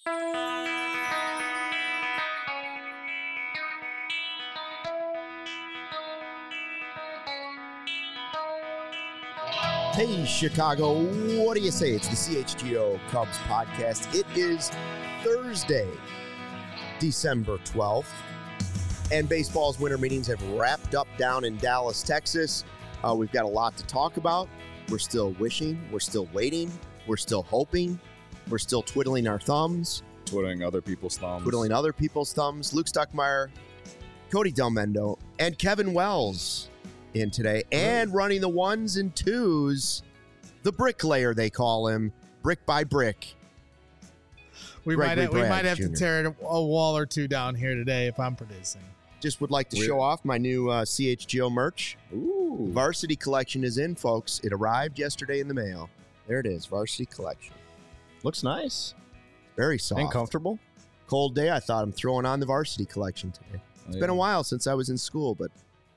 Hey, Chicago, what do you say? It's the CHGO Cubs podcast. It is Thursday, December 12th, and baseball's winter meetings have wrapped up down in Dallas, Texas. We've got a lot to talk about. We're still wishing. We're still waiting. We're still hoping. We're still twiddling our thumbs. Twiddling other people's thumbs. Luke Stuckmeyer, Cody Delmendo, and Kevin Wells in today. And running the ones and twos, the bricklayer, they call him, brick by brick. We might have to tear a wall or two down here today if I'm producing. Just would like to show off my new CHGO merch. Ooh. Varsity Collection is in, folks. It arrived yesterday in the mail. There it is, Varsity Collection. Looks nice. Very soft. And comfortable. Cold day, I thought I'm throwing on the Varsity Collection today. It's been a while since I was in school, but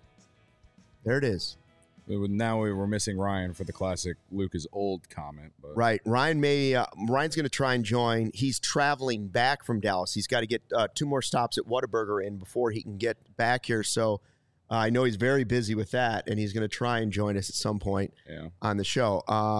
there it is. Now we were missing Ryan for the classic Lucas old comment. But. Right. Ryan's going to try and join. He's traveling back from Dallas. He's got to get 2 more stops at Whataburger in before he can get back here. So I know he's very busy with that, and he's going to try and join us at some point on the show.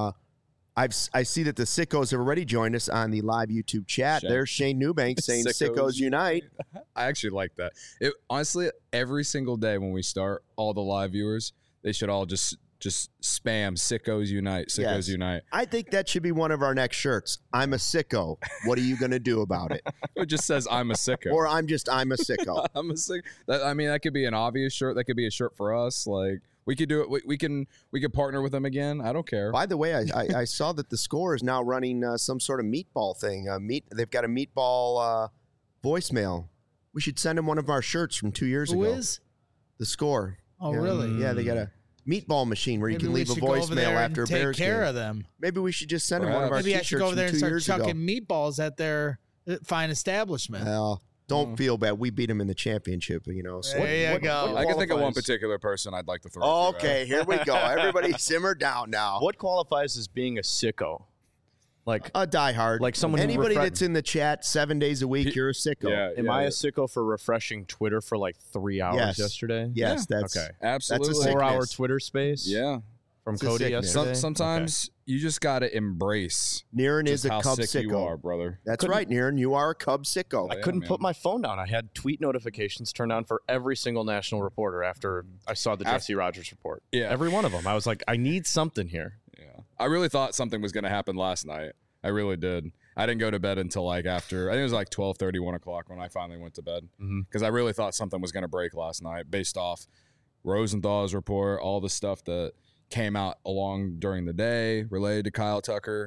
I see that the Sickos have already joined us on the live YouTube chat. There's Shane Newbank saying Sickos Unite. I actually like that. Honestly, every single day when we start, all the live viewers, they should all just spam Sickos Unite, Sickos Unite. I think that should be one of our next shirts. I'm a sicko. What are you going to do about it? It just says I'm a sicko. Or I'm a sicko. I'm a sicko. That could be an obvious shirt. That could be a shirt for us. Like, we could do it. We can partner with them again. I don't care. By the way, I saw that the Score is now running some sort of meatball thing. They've got a meatball voicemail. We should send them one of our shirts from 2 years ago. Who is? The Score. Oh, really? Yeah, they got a meatball machine where you can leave a voicemail after a Bears game. Take care of them. Maybe we should just send them one of our Maybe t-shirts I should go over there and start chucking ago. meatballs at their fine establishment. Well, don't feel bad. We beat them in the championship, you know. So there you go. I can think of one particular person I'd like to throw. Okay, here we go. Everybody simmer down now. What qualifies as being a sicko? Like a diehard. Like someone anybody that's in the chat 7 days a week, you're a sicko. Am I a sicko for refreshing Twitter for like 3 hours yesterday? Yes, that's okay. Absolutely. That's a 4-hour Twitter space. Yeah. From Cody yesterday. Sometimes you just got to embrace. Niren is a Cub sick sicko. You are, brother. That's right, Niren. You are a Cub sicko. I couldn't put my phone down. I had tweet notifications turned on for every single national reporter after I saw the Jesse Rogers report. Yeah. Every one of them. I was like, I need something here. Yeah. I really thought something was going to happen last night. I really did. I didn't go to bed until after, I think it was 12:30, 1 o'clock when I finally went to bed. Because I really thought something was going to break last night based off Rosenthal's report, all the stuff that came out along during the day related to Kyle Tucker,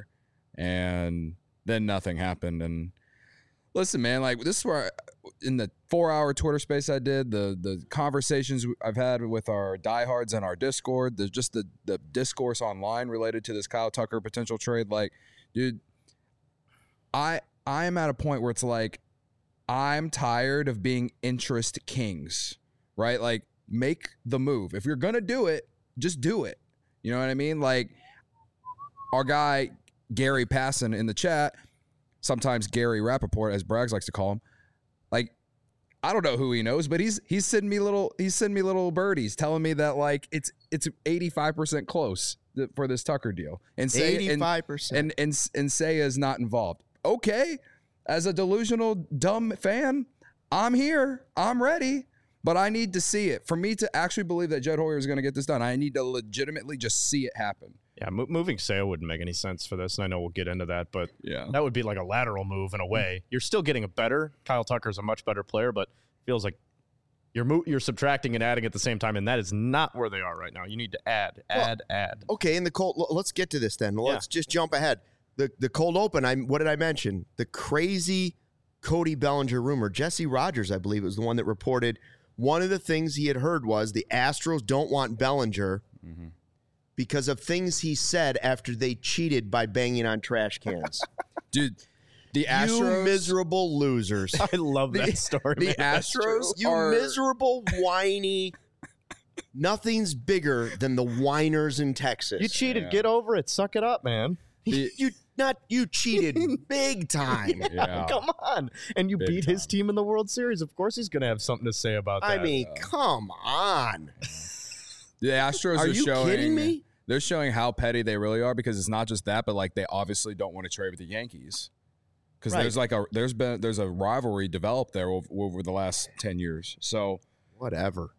and then nothing happened. And listen, man, this is where in the 4-hour Twitter space I did, the conversations I've had with our diehards and our Discord, the discourse online related to this Kyle Tucker potential trade, dude, I am at a point where it's I'm tired of being interest kings, right? Make the move. If you're going to do it, just do it. You know what I mean? Our guy, Gary Passon in the chat, sometimes Gary Rappaport, as Braggs likes to call him, I don't know who he knows, but he's sending me little birdies telling me that it's 85% close for this Tucker deal. And say 85%. And say is not involved. Okay, as a delusional dumb fan, I'm here. I'm ready. But I need to see it. For me to actually believe that Jed Hoyer is going to get this done, I need to legitimately just see it happen. Yeah, moving Sale wouldn't make any sense for this, and I know we'll get into that, but that would be like a lateral move in a way. You're still getting a better. Kyle Tucker's a much better player, but it feels like you're subtracting and adding at the same time, and that is not where they are right now. You need to add. Okay, in the cold, let's get to this then. Let's just jump ahead. The cold open, what did I mention? The crazy Cody Bellinger rumor. Jesse Rogers, I believe, was the one that reported one of the things he had heard was the Astros don't want Bellinger because of things he said after they cheated by banging on trash cans. Dude, the Astros... You miserable losers. I love that story. The Astros You miserable, whiny... Nothing's bigger than the whiners in Texas. You cheated. Yeah. Get over it. Suck it up, man. You Not you cheated big time. Yeah. Come on. And you beat his team in the World Series. Of course he's going to have something to say about that. I mean, come on. The Astros are you kidding me? They're showing how petty they really are, because it's not just that, but like they obviously don't want to trade with the Yankees. Because there's a rivalry developed there over the last 10 years. So whatever.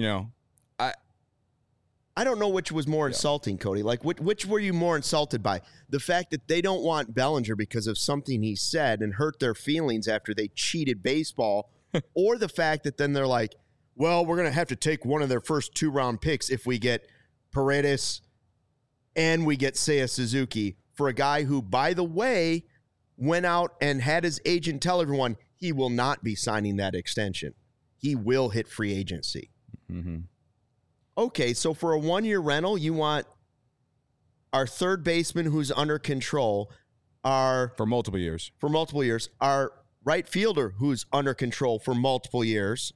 I don't know which was more insulting, Cody. Like, which were you more insulted by? The fact that they don't want Bellinger because of something he said and hurt their feelings after they cheated baseball, or the fact that then they're like, well, we're going to have to take one of their first 2-round picks if we get Paredes and we get Seiya Suzuki for a guy who, by the way, went out and had his agent tell everyone he will not be signing that extension. He will hit free agency. Mm-hmm. Okay, so for a 1-year rental, you want our third baseman who's under control, for multiple years, our right fielder who's under control for multiple years,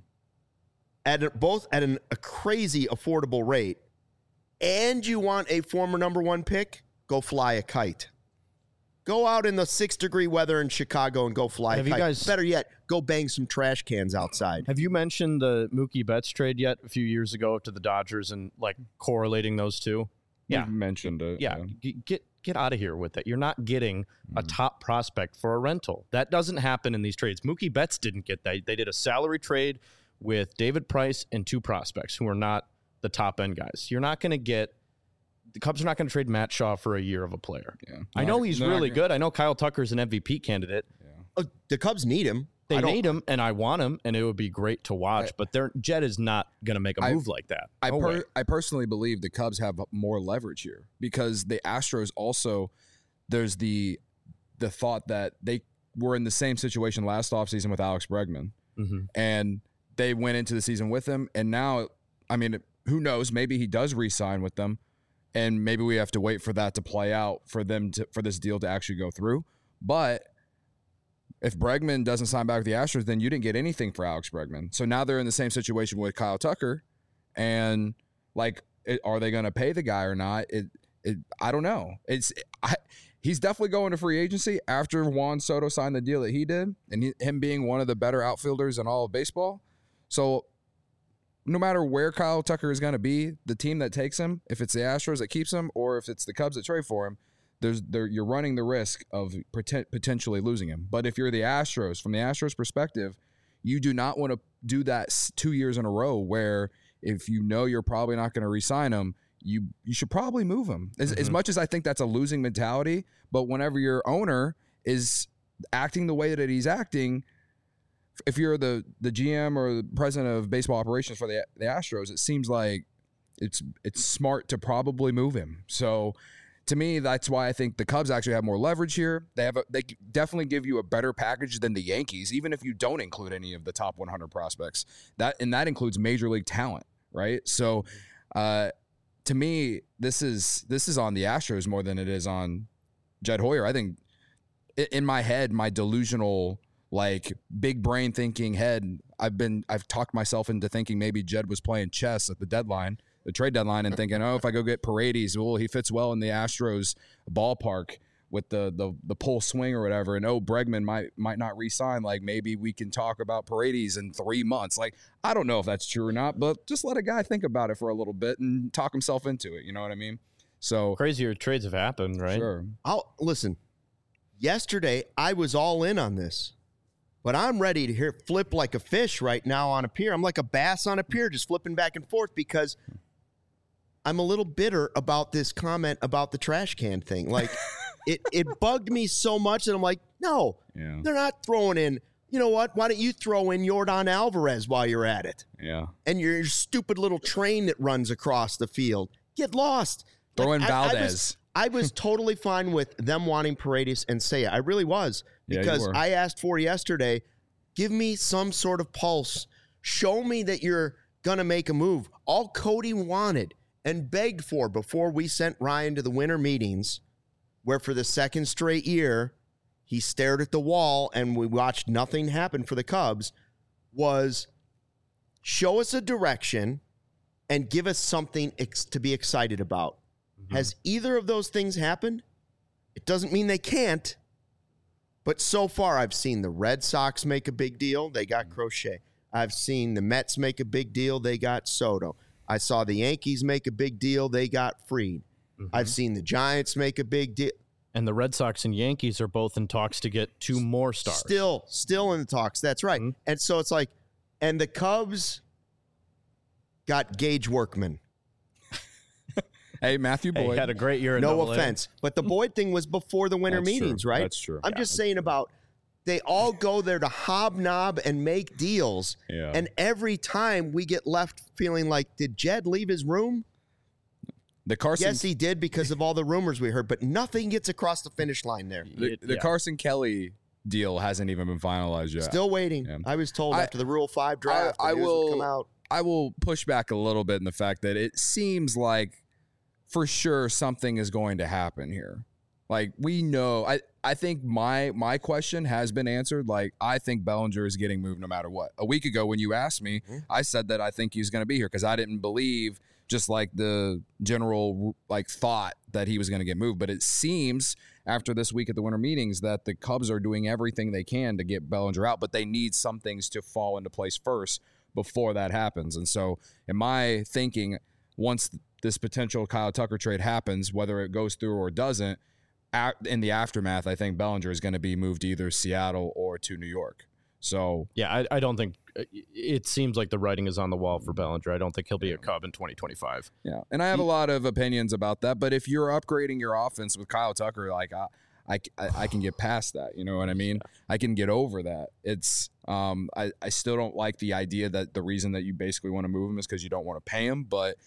both at a crazy affordable rate, and you want a former number 1 pick, go fly a kite. Go out in the 6-degree weather in Chicago and go fly a kite. Better yet, go bang some trash cans outside. Have you mentioned the Mookie Betts trade yet a few years ago to the Dodgers and like correlating those two? Yeah. You mentioned it. Yeah. Get out of here with it. You're not getting a top prospect for a rental. That doesn't happen in these trades. Mookie Betts didn't get that. They did a salary trade with David Price and 2 prospects who are not the top end guys. You're not going to get the Cubs are not going to trade Matt Shaw for a year of a player. Yeah. I know he's really good. I know Kyle Tucker's an MVP candidate. Yeah. The Cubs need him. They need him, and I want him, and it would be great to watch. But Jed is not going to make a move like that. I personally believe the Cubs have more leverage here, because the Astros also, there's the thought that they were in the same situation last offseason with Alex Bregman, and they went into the season with him. And now, I mean, who knows? Maybe he does re-sign with them. And maybe we have to wait for that to play out for this deal to actually go through. But if Bregman doesn't sign back with the Astros, then you didn't get anything for Alex Bregman. So now they're in the same situation with Kyle Tucker, and like, are they going to pay the guy or not? I don't know. He's definitely going to free agency after Juan Soto signed the deal that he did, and him being one of the better outfielders in all of baseball. So no matter where Kyle Tucker is going to be, the team that takes him, if it's the Astros that keeps him or if it's the Cubs that trade for him, you're running the risk of potentially losing him. But if you're the Astros, from the Astros perspective, you do not want to do that 2 years in a row where if you know you're probably not going to re-sign him, you should probably move him. As much as I think that's a losing mentality, but whenever your owner is acting the way that he's acting, if you're the GM or the president of baseball operations for the Astros, it seems like it's smart to probably move him. So to me, that's why I think the Cubs actually have more leverage here. They definitely give you a better package than the Yankees, even if you don't include any of the top 100 prospects. That includes major league talent, right? So to me, this is on the Astros more than it is on Jed Hoyer. I think in my head, my delusional, like, big brain thinking head, I've talked myself into thinking maybe Jed was playing chess at the trade deadline, and thinking, oh, if I go get Paredes, well, he fits well in the Astros ballpark with the pull swing or whatever, and Bregman might not re-sign. Like, maybe we can talk about Paredes in 3 months. Like, I don't know if that's true or not, but just let a guy think about it for a little bit and talk himself into it. You know what I mean? So crazier trades have happened, right? Sure. Listen. Yesterday, I was all in on this. But I'm ready to flip like a fish right now on a pier. I'm like a bass on a pier, just flipping back and forth, because I'm a little bitter about this comment about the trash can thing. Like, it bugged me so much that I'm like, no, they're not throwing in. You know what? Why don't you throw in Yordan Alvarez while you're at it? Yeah. And your stupid little train that runs across the field. Get lost. Throw in Valdez. I was totally fine with them wanting Paredes and Seiya. I really was. Because I asked for yesterday, give me some sort of pulse. Show me that you're going to make a move. All Cody wanted and begged for before we sent Ryan to the winter meetings, where for the second straight year, he stared at the wall and we watched nothing happen for the Cubs, was show us a direction and give us something to be excited about. Mm-hmm. Has either of those things happened? It doesn't mean they can't. But so far, I've seen the Red Sox make a big deal. They got Crochet. I've seen the Mets make a big deal. They got Soto. I saw the Yankees make a big deal. They got Fried. Mm-hmm. I've seen the Giants make a big deal. And the Red Sox and Yankees are both in talks to get 2 more stars. Still in the talks. That's right. Mm-hmm. And so it's like, and the Cubs got Gage Workman. Hey, Matthew Boyd had a great year in No AA. offense. But the Boyd thing was before the winter meetings, true. right? That's true. I'm just saying about they all go there to hobnob and make deals. Yeah. And every time we get left feeling like, did Jed leave his room? Yes, he did because of all the rumors we heard, but nothing gets across the finish line there. The Carson Kelly deal hasn't even been finalized yet. Still waiting. Yeah. I was told after the Rule 5 draft I will come out. I will push back a little bit in the fact that it seems like for sure something is going to happen here. Like, we know, I think my question has been answered. Like, I think Bellinger is getting moved no matter what. A week ago when you asked me, I said that I think he's going to be here because I didn't believe just like the general like thought that he was going to get moved. But it seems after this week at the winter meetings that the Cubs are doing everything they can to get Bellinger out, but they need some things to fall into place first before that happens. And so in my thinking, once this potential Kyle Tucker trade happens, whether it goes through or doesn't, in the aftermath, I think Bellinger is going to be moved to either Seattle or to New York. So yeah, I don't think it seems like the writing is on the wall for Bellinger. I don't think he'll be a Cub in 2025. Yeah, and I have a lot of opinions about that. But if you're upgrading your offense with Kyle Tucker, like I can get past that. You know what I mean? I can get over that. It's I still don't like the idea that the reason that you basically want to move him is because you don't want to pay him, but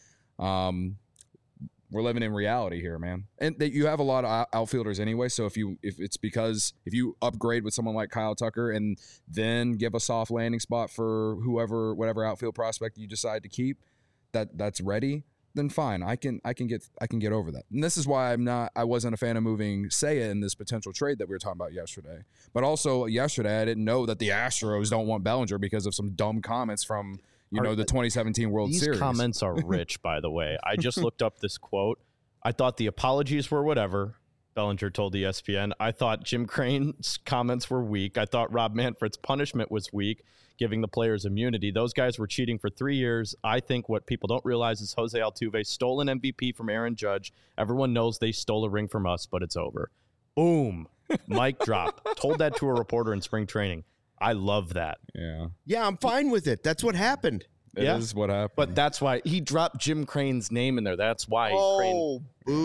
we're living in reality here, man. And that you have a lot of outfielders anyway. So if you upgrade with someone like Kyle Tucker and then give a soft landing spot for whatever outfield prospect you decide to keep that's ready, then fine. I can get over that. And this is why I wasn't a fan of moving Seiya in this potential trade that we were talking about yesterday. But also yesterday I didn't know that the Astros don't want Bellinger because of some dumb comments from the 2017 World Series. These comments are rich, by the way. I just looked up this quote. I thought the apologies were whatever, Bellinger told ESPN. I thought Jim Crane's comments were weak. I thought Rob Manfred's punishment was weak, giving the players immunity. Those guys were cheating for 3 years. I think what people don't realize is Jose Altuve stole an MVP from Aaron Judge. Everyone knows they stole a ring from us, but it's over. Boom. Mic drop. Told that to a reporter in spring training. I love that. Yeah, I'm fine with it. That's what happened. It is what happened. But that's why he dropped Jim Crane's name in there. That's why. Oh,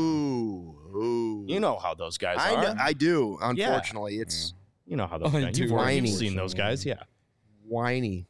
boo. You know how those guys are. I do. Unfortunately, it's... You know how those guys are. You've seen those guys, yeah. Whiny.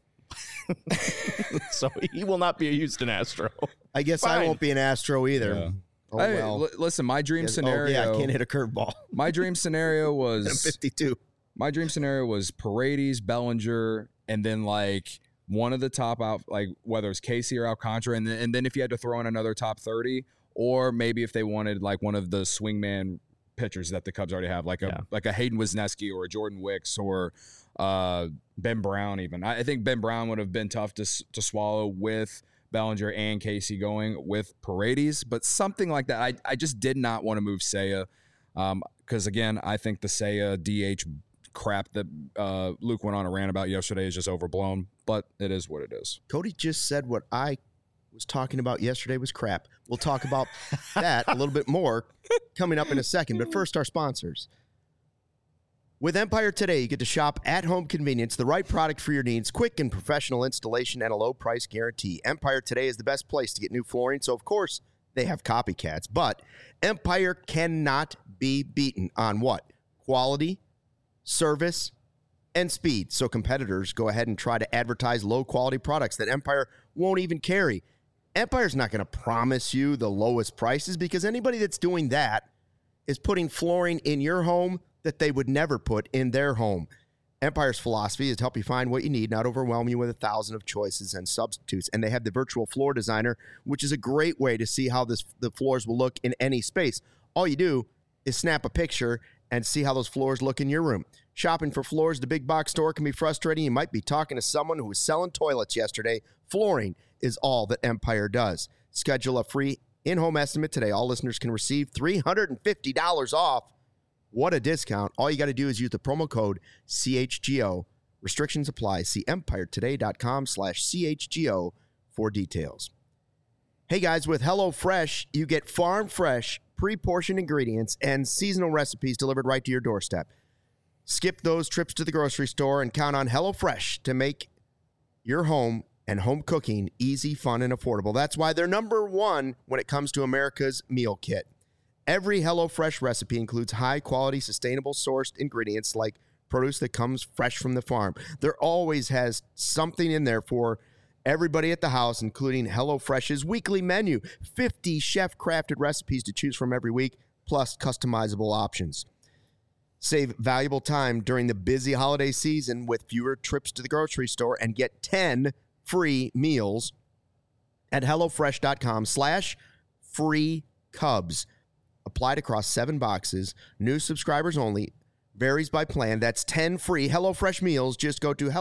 So he will not be a Houston Astro. I guess I won't be an Astro either. Yeah. Oh, well. Listen, my dream scenario... I can't hit a curveball. My dream scenario was... I'm 52. My dream scenario was Paredes, Bellinger, and then like one of the top out, like whether it's Casey or Alcantara, and then if you had to throw in another top 30, or maybe if they wanted like one of the swingman pitchers that the Cubs already have, like a Hayden Wesneski or a Jordan Wicks or Ben Brown even. I think Ben Brown would have been tough to swallow with Bellinger and Casey going with Paredes, but something like that. I just did not want to move Seiya because, again, I think the Seiya DH crap that Luke went on a rant about yesterday is just overblown, but it is what it is. Cody just said what I was talking about yesterday was crap. We'll talk about that a little bit more coming up in a second, but first our sponsors. With Empire Today, you get to shop at home convenience, the right product for your needs, quick and professional installation, and a low price guarantee. Empire Today is the best place to get new flooring, so of course they have copycats, but Empire cannot be beaten on what? Quality, service, and speed. So competitors go ahead and try to advertise low-quality products that Empire won't even carry. Empire's not going to promise you the lowest prices because anybody that's doing that is putting flooring in your home that they would never put in their home. Empire's philosophy is to help you find what you need, not overwhelm you with 1,000 of choices and substitutes. And they have the virtual floor designer, which is a great way to see how the floors will look in any space. All you do is snap a picture and see how those floors look in your room. Shopping for floors at the big box store can be frustrating. You might be talking to someone who was selling toilets yesterday. Flooring is all that Empire does. Schedule a free in-home estimate today. All listeners can receive $350 off What a discount. All you got to do is use the promo code CHGO. Restrictions apply. See empiretoday.com/CHGO for details. Hey guys, with HelloFresh, you get farm fresh, pre-portioned ingredients and seasonal recipes delivered right to your doorstep. Skip those trips to the grocery store and count on HelloFresh to make your home and home cooking easy, fun, and affordable. That's why they're number one when it comes to America's meal kit. Every HelloFresh recipe includes high-quality, sustainable sourced ingredients like produce that comes fresh from the farm. There always has something in there for everybody at the house, including HelloFresh's weekly menu. 50 chef-crafted recipes to choose from every week, plus customizable options. Save valuable time during the busy holiday season with fewer trips to the grocery store and get 10 free meals at HelloFresh.com/freecubs. Applied across 7 boxes. New subscribers only. Varies by plan. That's 10 free HelloFresh meals. Just go to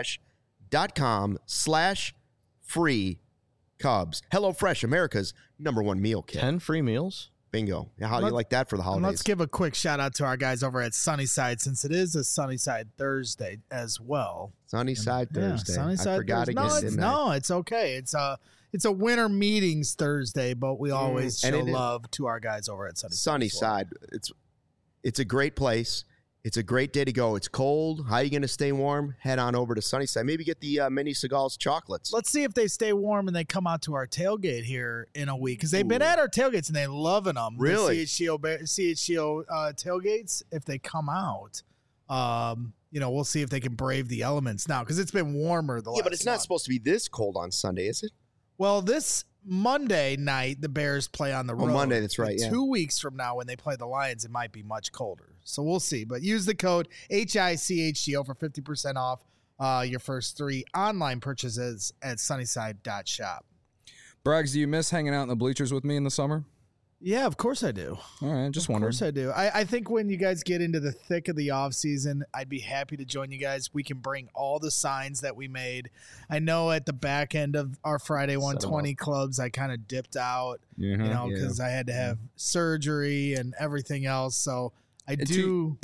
HelloFresh.com/freecubs. HelloFresh, America's #1 meal kit. 10 free meals? Bingo. How do you like that for the holidays? Let's give a quick shout out to our guys over at Sunnyside, since it is a Sunnyside Thursday as well. Sunnyside Thursday. Sunnyside I forgot Thursday. again. No, it's okay. It's a winter meetings Thursday, but we always show love to our guys over at Sunnyside. Sunnyside. Well. It's a great place. It's a great day to go. It's cold. How are you going to stay warm? Head on over to Sunnyside. Maybe get the Mini Seagal's chocolates. Let's see if they stay warm and they come out to our tailgate here in a week, because they've been at our tailgates and they're loving them. Really? The CHGO tailgates, if they come out, we'll see if they can brave the elements now, because it's been warmer the last Yeah, but it's not month. supposed to be this cold on Sunday, is it? Well, this Monday night, the Bears play on the road. Monday, that's right, But yeah. 2 weeks from now, when they play the Lions, it might be much colder. So we'll see. But use the code HICHGO for 50% off your first 3 online purchases at sunnyside.shop. Braggs, do you miss hanging out in the bleachers with me in the summer? Yeah, of course I do. All right, just wondering. Of course I do. I think when you guys get into the thick of the off season, I'd be happy to join you guys. We can bring all the signs that we made. I know at the back end of our Friday 120 clubs, I kind of dipped out, because I had to have surgery and everything else. So I do.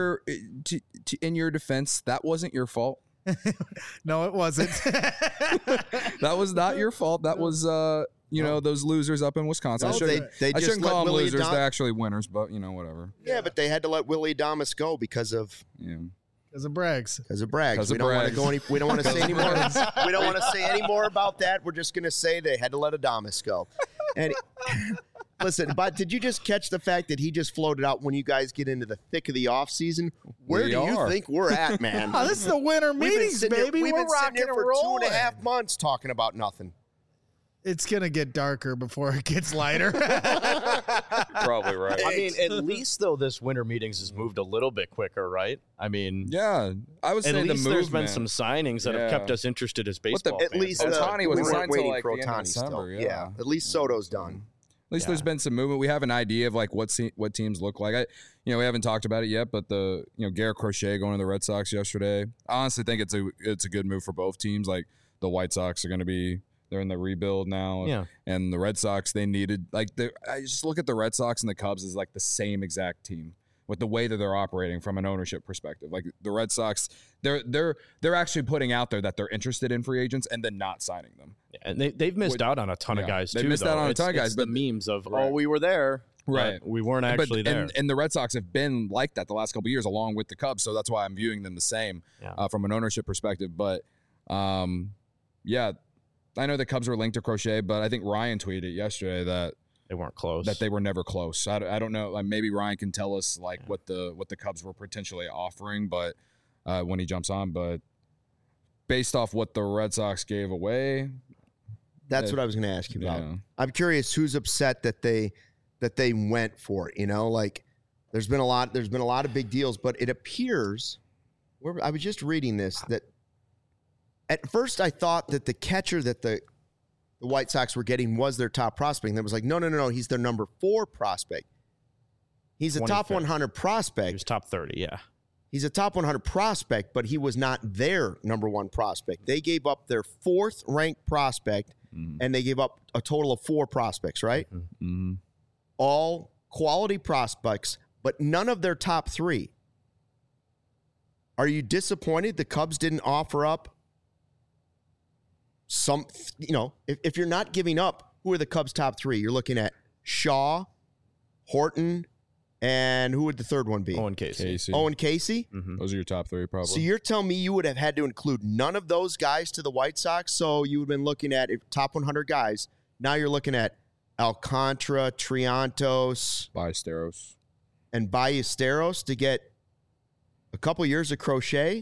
In your defense, that wasn't your fault. No, it wasn't. That was not your fault. That was those losers up in Wisconsin. No, I shouldn't call them losers. They're actually winners, but whatever. Yeah, but they had to let Willie Adames go because of Braggs. Because of Braggs. We don't want to go any. We don't want to say any more. We don't want to say any more about that. We're just going to say they had to let Adames go. And listen, but did you just catch the fact that he just floated out when you guys get into the thick of the off season? Where do you think we're at, man? Oh, this is the winter meetings, baby. We've been sitting here for rolling. 2.5 months talking about nothing. It's going to get darker before it gets lighter. Probably right. I mean, at least, though, this winter meetings has moved a little bit quicker, right? I mean, yeah. I was saying there's been some signings that have kept us interested as baseball fans. At least Ohtani was signed waiting like for the end of Ohtani December. still. Yeah. At least Soto's done. At least there's been some movement. We have an idea of like what teams look like. We haven't talked about it yet, but Garrett Crochet going to the Red Sox yesterday. I honestly think it's a good move for both teams. Like the White Sox are going to be. They're in the rebuild now. Yeah. And the Red Sox, they needed I just look at the Red Sox and the Cubs as like the same exact team with the way that they're operating from an ownership perspective. Like the Red Sox, they're actually putting out there that they're interested in free agents and then not signing them. Yeah, and they've missed out on a ton of guys too. They missed out on a ton of guys, but the memes of we were there. Right. We weren't actually there. And the Red Sox have been like that the last couple of years along with the Cubs. So that's why I'm viewing them the same from an ownership perspective. But I know the Cubs were linked to Crochet, but I think Ryan tweeted yesterday that they weren't close. That they were never close. I don't know. Like maybe Ryan can tell us what the Cubs were potentially offering, but when he jumps on. But based off what the Red Sox gave away, that's what I was going to ask you about. I'm curious who's upset that they went for it. Like there's been a lot of big deals, but it appears. I was just reading this that. At first, I thought that the catcher that the White Sox were getting was their top prospect. And it was like, no, he's their number 4 prospect. He's a top 100 prospect. He was top 30, yeah. He's a top 100 prospect, but he was not their number 1 prospect. They gave up their 4th ranked prospect, and they gave up a total of 4 prospects, right? Mm-hmm. All quality prospects but none of their top 3. Are you disappointed the Cubs didn't offer up some, if you're not giving up, who are the Cubs' top 3? You're looking at Shaw, Horton, and who would the third one be? Owen Casey. Owen Casey? Mm-hmm. Those are your top 3 probably. So you're telling me you would have had to include none of those guys to the White Sox? So you would have been looking at top 100 guys. Now you're looking at Alcantara, Triantos. Ballesteros to get a couple years of Crochet.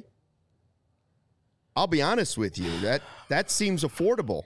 I'll be honest with you. That seems affordable.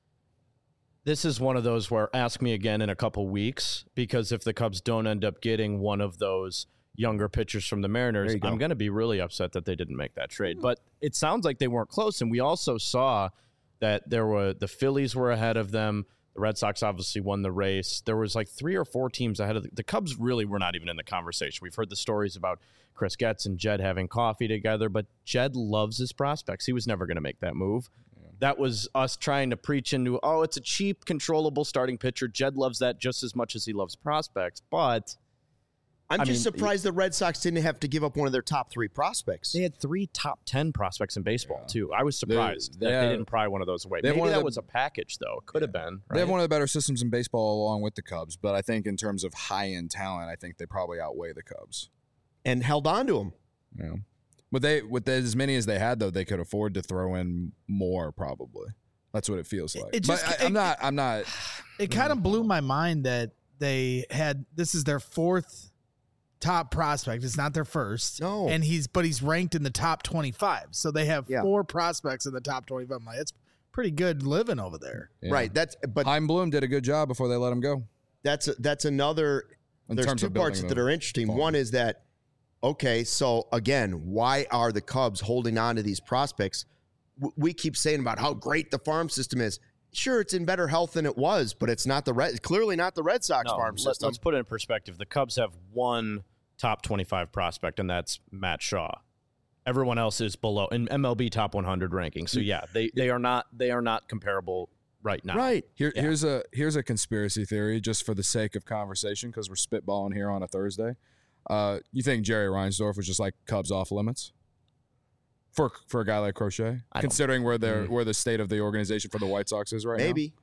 This is one of those where ask me again in a couple weeks, because if the Cubs don't end up getting one of those younger pitchers from the Mariners, I'm going to be really upset that they didn't make that trade. But it sounds like they weren't close, and we also saw that the Phillies were ahead of them. The Red Sox obviously won the race. There was like 3 or 4 teams ahead of the Cubs. Really were not even in the conversation. We've heard the stories about Chris Getz and Jed having coffee together, but Jed loves his prospects. He was never going to make that move. That was us trying to preach into, it's a cheap, controllable starting pitcher. Jed loves that just as much as he loves prospects. But I'm just surprised the Red Sox didn't have to give up one of their top 3 prospects. They had 3 top 10 prospects in baseball, too. I was surprised that they didn't pry one of those away. Maybe that was a package, though. Could have been. Right? They have one of the better systems in baseball along with the Cubs. But I think in terms of high-end talent, I think they probably outweigh the Cubs. And held on to them. Yeah. With as many as they had, though, they could afford to throw in more, probably. That's what it feels like. I'm not. It kind of blew my mind that they had, this is their 4th top prospect. It's not their first. No. And he's ranked in the top 25. So they have 4 prospects in the top 25. I'm like, it's pretty good living over there. Yeah. Right. But Chaim Bloom did a good job before they let him go. That's another. There's 2 parts that are interesting. Farm. One is that, okay, so again, why are the Cubs holding on to these prospects? We keep saying about how great the farm system is. Sure, it's in better health than it was, but it's not clearly not the Red Sox farm system. Let's put it in perspective. The Cubs have 1 top 25 prospect, and that's Matt Shaw. Everyone else is below in MLB top 100 ranking. So yeah, they are not comparable right now. Right. Here's a conspiracy theory just for the sake of conversation, because we're spitballing here on a Thursday. You think Jerry Reinsdorf was just like Cubs off limits for a guy like Crochet, considering where the state of the organization for the White Sox is right now? Maybe.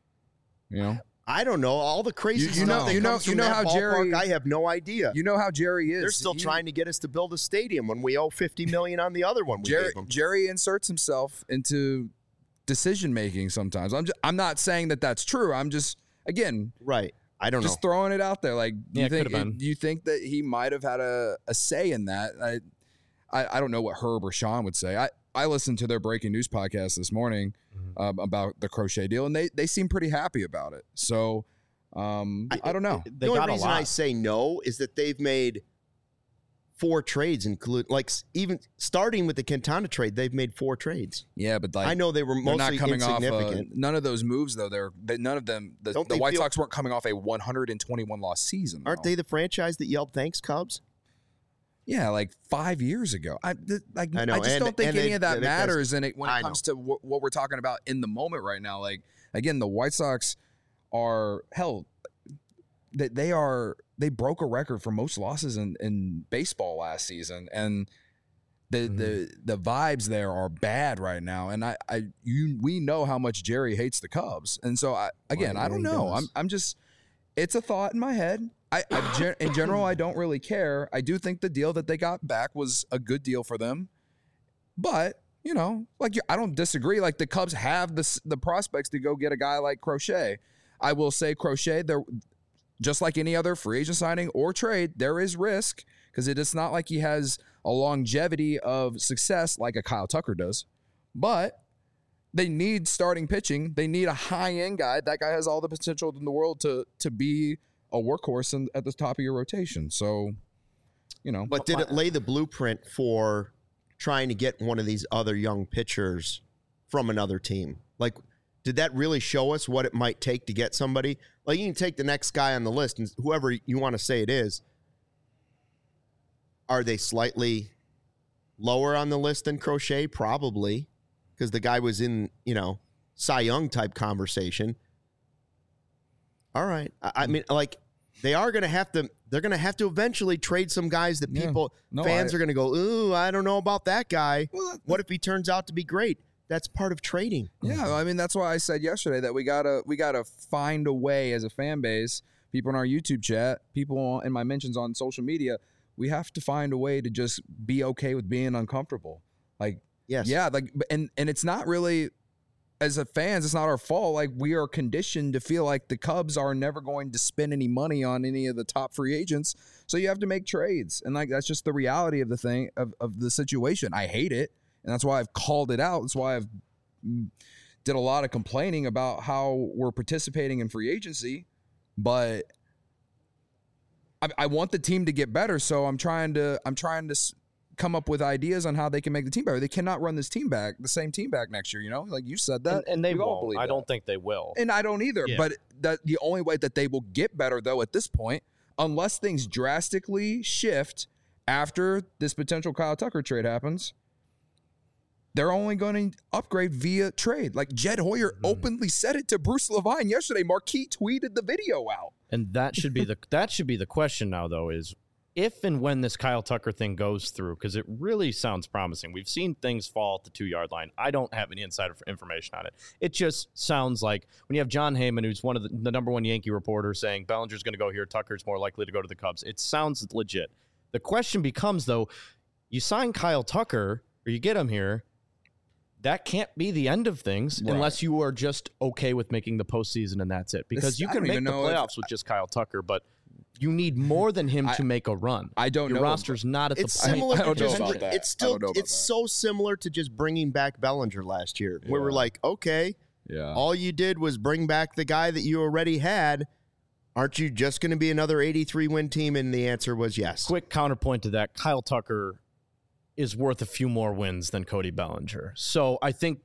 I don't know. All the crazy you know how Jerry. I have no idea. You know how Jerry is. They're still trying to get us to build a stadium when we owe $50 million on the other one. Jerry inserts himself into decision making sometimes. I'm not saying that that's true. I'm just right. I don't know. Just throwing it out there. Like, do you think that he might have had a say in that? I don't know what Herb or Sean would say. I listened to their breaking news podcast this morning about the Crochet deal, and they seem pretty happy about it. So I don't know. The only reason I say no is that they've made 4 trades, even starting with the Quintana trade, they've made 4 trades. Yeah, but I know they were mostly not coming insignificant. Off none of those moves, though. None of them. The White Sox weren't coming off a 121 loss season. Aren't they the franchise that yelled "Thanks, Cubs"? Yeah, like 5 years ago. I just don't think any of that matters when it comes to what we're talking about in the moment right now. Like, again, the White Sox are they broke a record for most losses in baseball last season, and the vibes there are bad right now. And we know how much Jerry hates the Cubs, and so I don't know. I'm just, it's a thought in my head. In general, I don't really care. I do think the deal that they got back was a good deal for them, but I don't disagree. Like, the Cubs have the prospects to go get a guy like Crochet. I will say Crochet, just like any other free agent signing or trade, there is risk, because it is not like he has a longevity of success like a Kyle Tucker does. But they need starting pitching. They need a high-end guy. That guy has all the potential in the world to be a workhorse at the top of your rotation. So, But did it lay the blueprint for trying to get one of these other young pitchers from another team? Like, did that really show us what it might take to get somebody? Like, you can take the next guy on the list, and whoever you want to say it is, are they slightly lower on the list than Crochet? Probably, because the guy was in, Cy Young type conversation. All right. I mean, like, they are going to have to. They're going to have to eventually trade some guys that fans are going to go, ooh, I don't know about that guy. Well, what if he turns out to be great? That's part of trading. Yeah, I mean, that's why I said yesterday that we gotta find a way as a fan base, people in our YouTube chat, people in my mentions on social media, we have to find a way to just be okay with being uncomfortable. Like, yes. Yeah, like, and it's not really, as a fans, it's not our fault. Like, we are conditioned to feel like the Cubs are never going to spend any money on any of the top free agents, so you have to make trades, and like that's just the reality of the thing of the situation. I hate it. And that's why I've called it out. That's why I've did a lot of complaining about how we're participating in free agency. But I want the team to get better, so I'm trying to come up with ideas on how they can make the team better. They cannot run this team back, the same team back next year. You know, like you said that, and they won't. I don't think they will, and I don't either. Yeah. But the only way that they will get better, though, at this point, unless things drastically shift after this potential Kyle Tucker trade happens, they're only going to upgrade via trade. Like Jed Hoyer openly said it to Bruce Levine yesterday. Marquis tweeted the video out. And that should be the question now, though, is if and when this Kyle Tucker thing goes through, because it really sounds promising. We've seen things fall at the 2-yard line. I don't have any insider information on it. It just sounds like when you have John Heyman, who's one of the number one Yankee reporters, saying Bellinger's going to go here, Tucker's more likely to go to the Cubs. It sounds legit. The question becomes, though, you sign Kyle Tucker or you get him here, that can't be the end of things unless you are just okay with making the postseason and that's it. Because you can make the playoffs with just Kyle Tucker, but you need more than him to make a run. I don't know. Your roster's not at the point. Similar. I don't know about that. It's still so similar to just bringing back Bellinger last year, where we're like, okay, all you did was bring back the guy that you already had. Aren't you just going to be another 83-win team? And the answer was yes. Quick counterpoint to that, Kyle Tucker is worth a few more wins than Cody Bellinger. So I think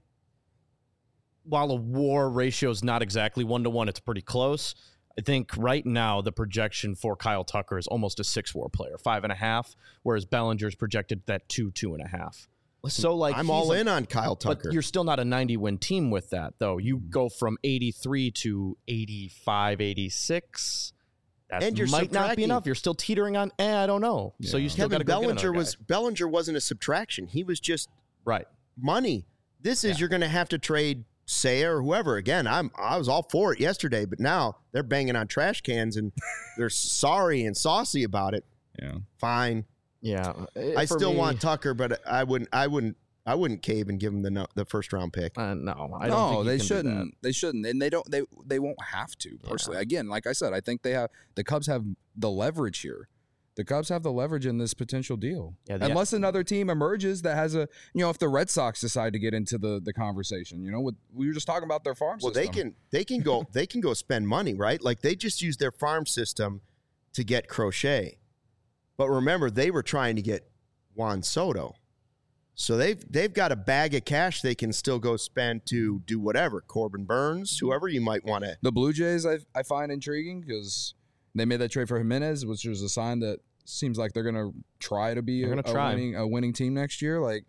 while a WAR ratio is not exactly 1-to-1, it's pretty close. I think right now the projection for Kyle Tucker is almost a 6 WAR player, 5.5, whereas Bellinger's projected that 2.5. Listen, so like I'm all in on Kyle Tucker. But you're still not a 90-win team with that, though. You go from 83 to 85, 86. That might not be enough. You're still teetering on, I don't know. Yeah. So you still got to go get another guy. Bellinger wasn't a subtraction. He was just money. This is you're going to have to trade Seiya or whoever. Again, I was all for it yesterday, but now they're banging on trash cans and they're sorry and saucy about it. Yeah, fine. Yeah, I still want Tucker, but I wouldn't cave and give him the first round pick. No, I don't think they shouldn't. They shouldn't, and they won't have to. Personally, again, like I said, I think the Cubs have the leverage here. The Cubs have the leverage in this potential deal, unless another team emerges that has if the Red Sox decide to get into the conversation. We were just talking about their farm system. Well, they can go spend money, right? Like they just used their farm system to get Crochet, but remember they were trying to get Juan Soto. So they've got a bag of cash they can still go spend to do whatever. Corbin Burns, whoever you might want to. The Blue Jays I find intriguing because they made that trade for Jimenez, which was a sign that seems like they're going to try to be a winning team next year. Like,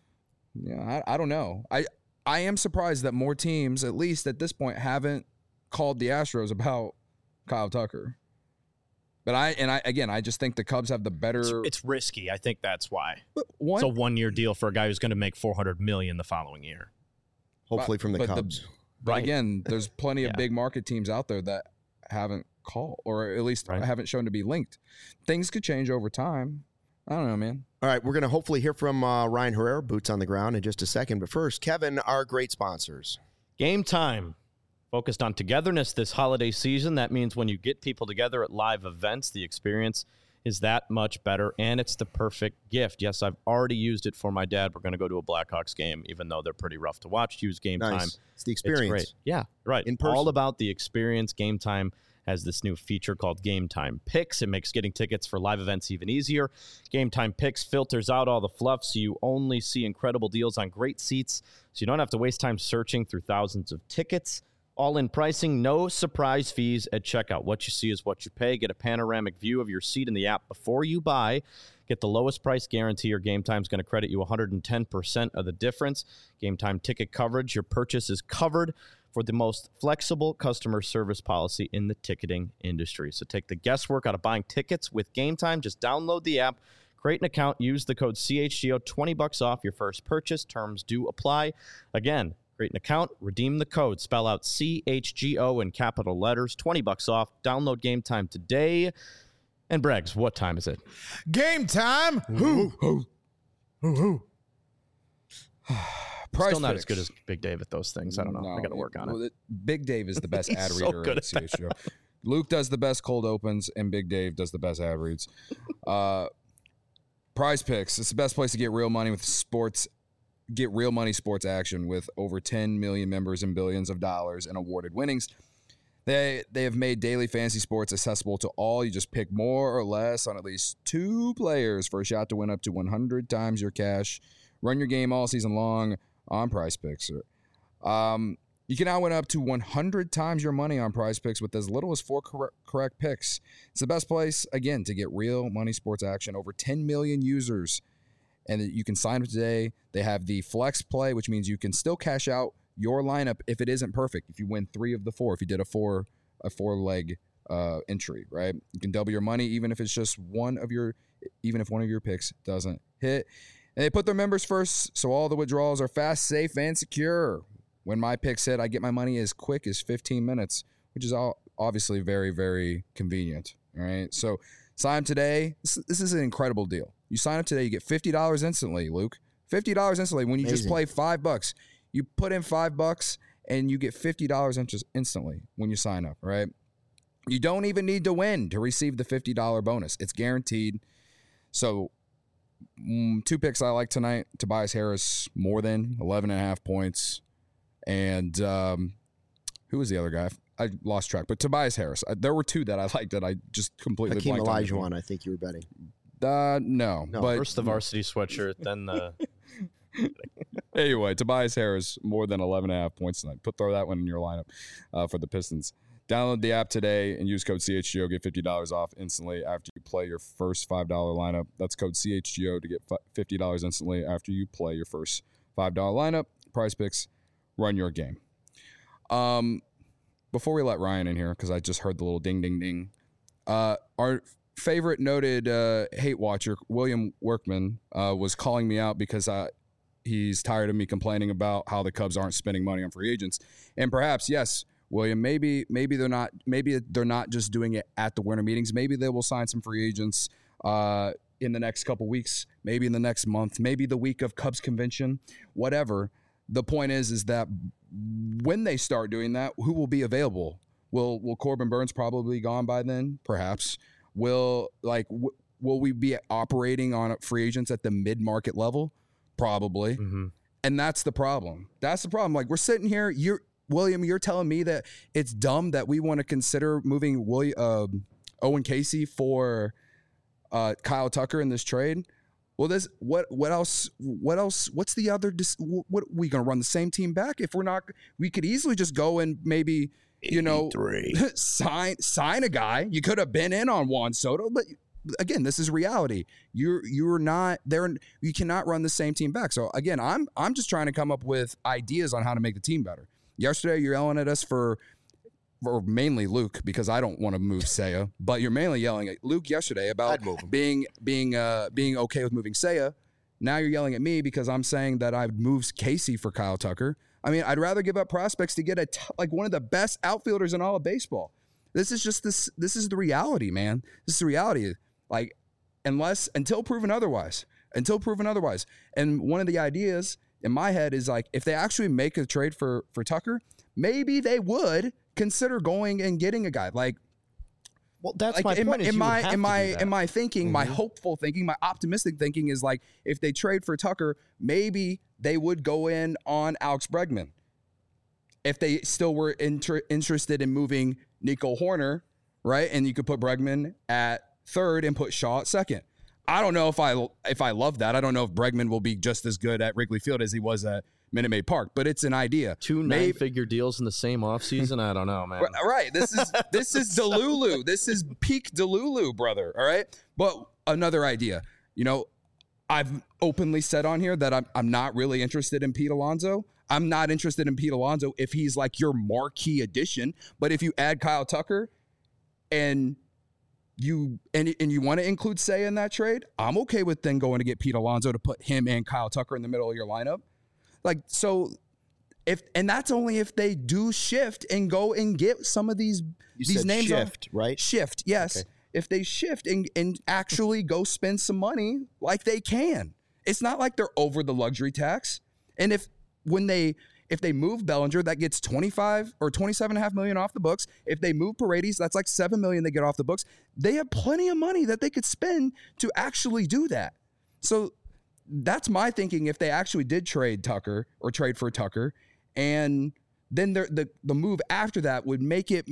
I don't know. I am surprised that more teams, at least at this point, haven't called the Astros about Kyle Tucker. But I just think the Cubs have the better. It's risky. I think that's why. It's a 1-year deal for a guy who's going to make $400 million the following year. Hopefully from the Cubs. But again, there's plenty of big market teams out there that haven't called, or at least haven't shown to be linked. Things could change over time. I don't know, man. All right, we're going to hopefully hear from Ryan Herrera, boots on the ground, in just a second. But first, Kevin, our great sponsors. Game Time. Focused on togetherness this holiday season. That means when you get people together at live events, the experience is that much better, and it's the perfect gift. Yes, I've already used it for my dad. We're going to go to a Blackhawks game, even though they're pretty rough to watch. Use Game Time. It's the experience. It's great. Yeah, right. In person. All about the experience. Game Time has this new feature called Game Time Picks. It makes getting tickets for live events even easier. Game Time Picks filters out all the fluff, so you only see incredible deals on great seats, so you don't have to waste time searching through thousands of tickets. All-in pricing, no surprise fees at checkout. What you see is what you pay. Get a panoramic view of your seat in the app before you buy. Get the lowest price guarantee or Game Time's going to credit you 110% of the difference. Game Time ticket coverage. Your purchase is covered for the most flexible customer service policy in the ticketing industry. So take the guesswork out of buying tickets with Game Time. Just download the app, create an account, use the code CHGO, $20 off your first purchase. Terms do apply. Again, create an account, redeem the code, spell out CHGO in capital letters, $20 off. Download Game Time today. And Braggs, what time is it? Game time. Still not as good as Big Dave at those things. I don't know. I got to work on it. Big Dave is the best ad reader at CHGO. Luke does the best cold opens, and Big Dave does the best ad reads. Prize Picks. It's the best place to get real money with sports. Get real money sports action with over 10 million members and billions of dollars in awarded winnings. They have made daily fantasy sports accessible to all. You just pick more or less on at least 2 players for a shot to win up to 100 times your cash. Run your game all season long on Prize Picks. You can now win up to 100 times your money on Prize Picks with as little as 4 correct picks. It's the best place, again, to get real money sports action. Over 10 million users. And you can sign up today. They have the flex play, which means you can still cash out your lineup if it isn't perfect. If you win 3 of the 4, if you did a four-leg entry, right? You can double your money even if it's just one of your picks doesn't hit. And they put their members first, so all the withdrawals are fast, safe, and secure. When my picks hit, I get my money as quick as 15 minutes, which is obviously very, very convenient. All right, so sign up today. This is an incredible deal. You sign up today, you get $50 instantly, Luke. $50 instantly when you just play $5. You put in $5 and you get $50 instantly when you sign up, right? You don't even need to win to receive the $50 bonus. It's guaranteed. So 2 picks I like tonight. Tobias Harris, more than 11.5 points. And who was the other guy? I lost track. But Tobias Harris. There were 2 that I liked that I just completely Hakeem blanked on. Olajuwon, I think you were betting. No. But first the varsity sweatshirt, then the... Anyway, Tobias Harris, more than 11.5 points tonight. Throw that one in your lineup for the Pistons. Download the app today and use code CHGO. Get $50 off instantly after you play your first $5 lineup. That's code CHGO to get $50 instantly after you play your first $5 lineup. Prize Picks, run your game. Before we let Ryan in here, because I just heard the little ding, ding, ding. Our favorite noted hate watcher, William Workman, was calling me out because he's tired of me complaining about how the Cubs aren't spending money on free agents. And perhaps, yes, William, maybe they're not just doing it at the winter meetings. Maybe they will sign some free agents in the next couple weeks, maybe in the next month, maybe the week of Cubs convention, whatever. The point is that when they start doing that, who will be available? Will Corbin Burns probably be gone by then? Perhaps. Will we be operating on free agents at the mid-market level? Probably. Mm-hmm. And that's the problem. Like, we're sitting here, William, you're telling me that it's dumb that we want to consider moving Owen Casey for Kyle Tucker in this trade. Well, what else? What's the other? What are we going to run the same team back? If we're not, we could easily just go and maybe, sign a guy. You could have been in on Juan Soto, but again, this is reality. You're not there. You cannot run the same team back. So again, I'm just trying to come up with ideas on how to make the team better. Yesterday, you're yelling at us or mainly Luke, because I don't want to move Seiya, but you're mainly yelling at Luke yesterday about being okay with moving Seiya. Now you're yelling at me because I'm saying that I've moved Casey for Kyle Tucker. I mean, I'd rather give up prospects to get one of the best outfielders in all of baseball. This is the reality, man. This is the reality. Like, until proven otherwise. And one of the ideas in my head is like, if they actually make a trade for Tucker, maybe they would consider going and getting a guy like. Well, that's my point. In my thinking, my hopeful thinking, my optimistic thinking is like, if they trade for Tucker, maybe they would go in on Alex Bregman. If they still were interested in moving Nico Horner, right, and you could put Bregman at third and put Shaw at second. I don't know if I love that. I don't know if Bregman will be just as good at Wrigley Field as he was at Minute Maid Park, but it's an idea. 2 9-figure deals in the same offseason? I don't know, man. Right. This is Delulu. This is peak Delulu, brother. All right. But another idea. You know, I've openly said on here that I'm not really interested in Pete Alonso. I'm not interested in Pete Alonso if he's like your marquee addition. But if you add Kyle Tucker and you want to include Seiya in that trade, I'm okay with then going to get Pete Alonso to put him and Kyle Tucker in the middle of your lineup. Like, so and that's only if they do shift and go and get some of these names. Shift, right? Shift, yes. Okay. If they shift and actually go spend some money like they can. It's not like they're over the luxury tax. And if they move Bellinger, that gets 25 or 27.5 million off the books. If they move Paredes, that's like 7 million they get off the books. They have plenty of money that they could spend to actually do that. So that's my thinking if they actually did trade Tucker or trade for Tucker. And then the move after that would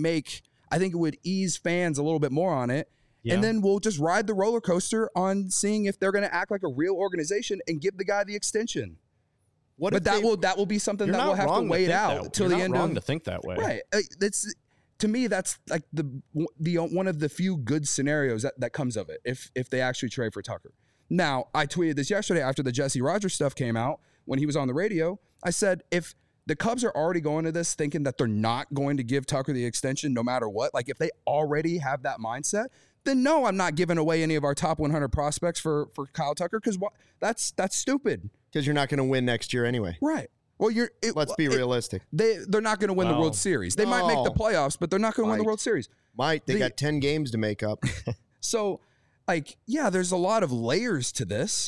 I think it would ease fans a little bit more on it. Yeah. And then we'll just ride the roller coaster on seeing if they're going to act like a real organization and give the guy the extension. That will be something that we'll have to wait out till the end. You're not wrong to think that way, right? To me, that's like the one of the few good scenarios that comes of it. If they actually trade for Tucker. Now, I tweeted this yesterday after the Jesse Rogers stuff came out when he was on the radio. I said if the Cubs are already going to this thinking that they're not going to give Tucker the extension no matter what, like if they already have that mindset, then no, I'm not giving away any of our top 100 prospects for Kyle Tucker because that's stupid. Because you're not going to win next year anyway. Right. Well, let's be realistic. They're not going to win the World Series. They might make the playoffs, but they're not going to win the World Series. They got 10 games to make up. So, like, yeah, there's a lot of layers to this.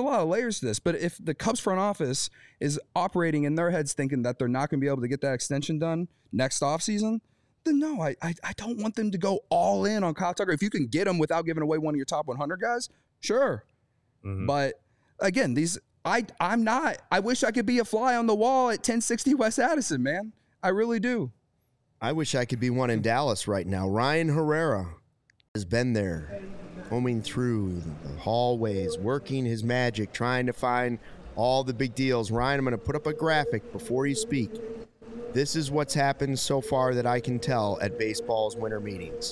But if the Cubs front office is operating in their heads thinking that they're not going to be able to get that extension done next offseason, then no, I don't want them to go all in on Kyle Tucker. If you can get him without giving away one of your top 100 guys, sure. Mm-hmm. But again, I'm not. I wish I could be a fly on the wall at 1060 West Addison, man. I really do. I wish I could be one in Dallas right now. Ryan Herrera has been there, combing through the hallways, working his magic, trying to find all the big deals. Ryan, I'm going to put up a graphic before you speak. This is what's happened so far that I can tell at baseball's winter meetings.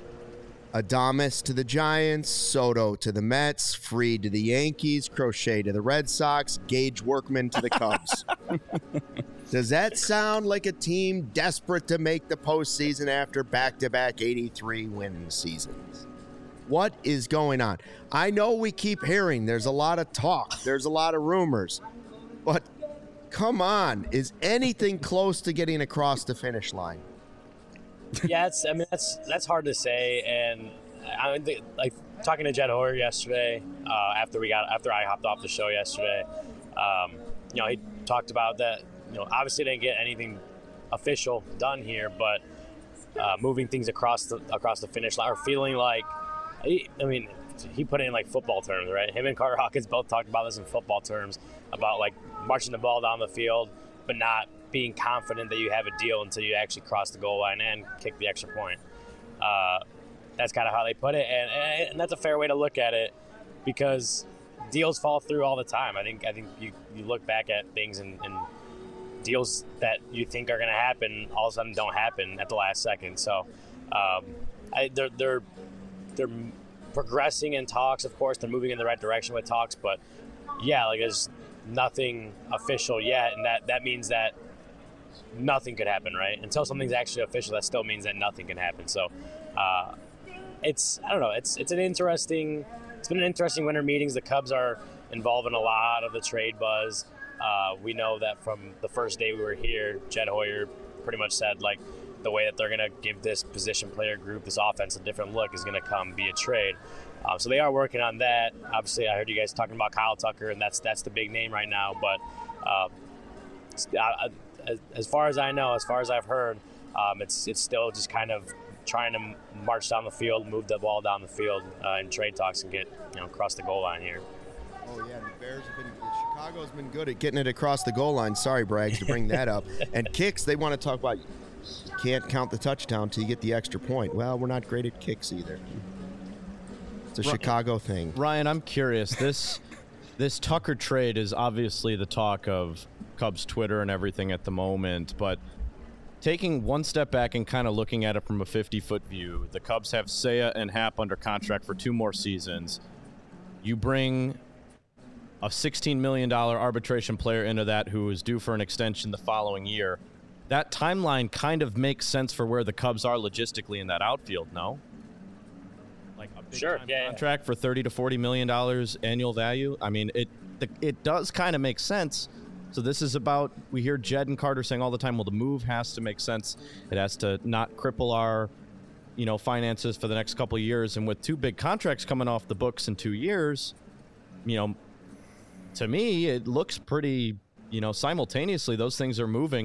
Adames to the Giants, Soto to the Mets, Fried to the Yankees, Crochet to the Red Sox, Gage Workman to the Cubs. Does that sound like a team desperate to make the postseason after back-to-back 83-win seasons? What is going on? I know we keep hearing there's a lot of talk, there's a lot of rumors, but come on, is anything close to getting across the finish line? Yeah, that's hard to say, and I think, like talking to Jed Hoyer yesterday after I hopped off the show yesterday, he talked about that. Obviously didn't get anything official done here, but moving things across the finish line, or feeling like, he put it in like football terms, right? Him and Carter Hawkins both talked about this in football terms about like marching the ball down the field, but not being confident that you have a deal until you actually cross the goal line and kick the extra point. That's kind of how they put it, and that's a fair way to look at it because deals fall through all the time. I think you look back at things and deals that you think are going to happen all of a sudden don't happen at the last second. So they're progressing in talks. Of course, they're moving in the right direction with talks, but yeah, like there's nothing official yet, and that means that nothing could happen, right? Until something's actually official, that still means that nothing can happen. So it's been an interesting winter meetings. The Cubs are involved in a lot of the trade buzz. We know that from the first day we were here, Jed Hoyer pretty much said like the way that they're going to give this position player group, this offense, a different look is going to come via trade. So they are working on that. Obviously, I heard you guys talking about Kyle Tucker, and that's the big name right now. But as far as I know, as far as I've heard, it's still just kind of trying to march down the field, move the ball down the field in trade talks and get across the goal line here. Oh yeah, Chicago's been good at getting it across the goal line. Sorry, Braggs, to bring that up. And kicks, they want to talk about. You can't count the touchdown till you get the extra point. Well, we're not great at kicks either. It's a Chicago thing. Ryan, I'm curious. This Tucker trade is obviously the talk of Cubs Twitter and everything at the moment, but taking one step back and kind of looking at it from a 50-foot view, the Cubs have Seiya and Happ under contract for 2 more seasons. You bring a $16 million arbitration player into that who is due for an extension the following year. That timeline kind of makes sense for where the Cubs are logistically in that outfield, no? Like a big contract for $30 to $40 million annual value. I mean, it does kind of make sense. So this is about, we hear Jed and Carter saying all the time, well, the move has to make sense. It has to not cripple our, finances for the next couple of years. And with 2 big contracts coming off the books in 2 years, to me, it looks pretty, simultaneously those things are moving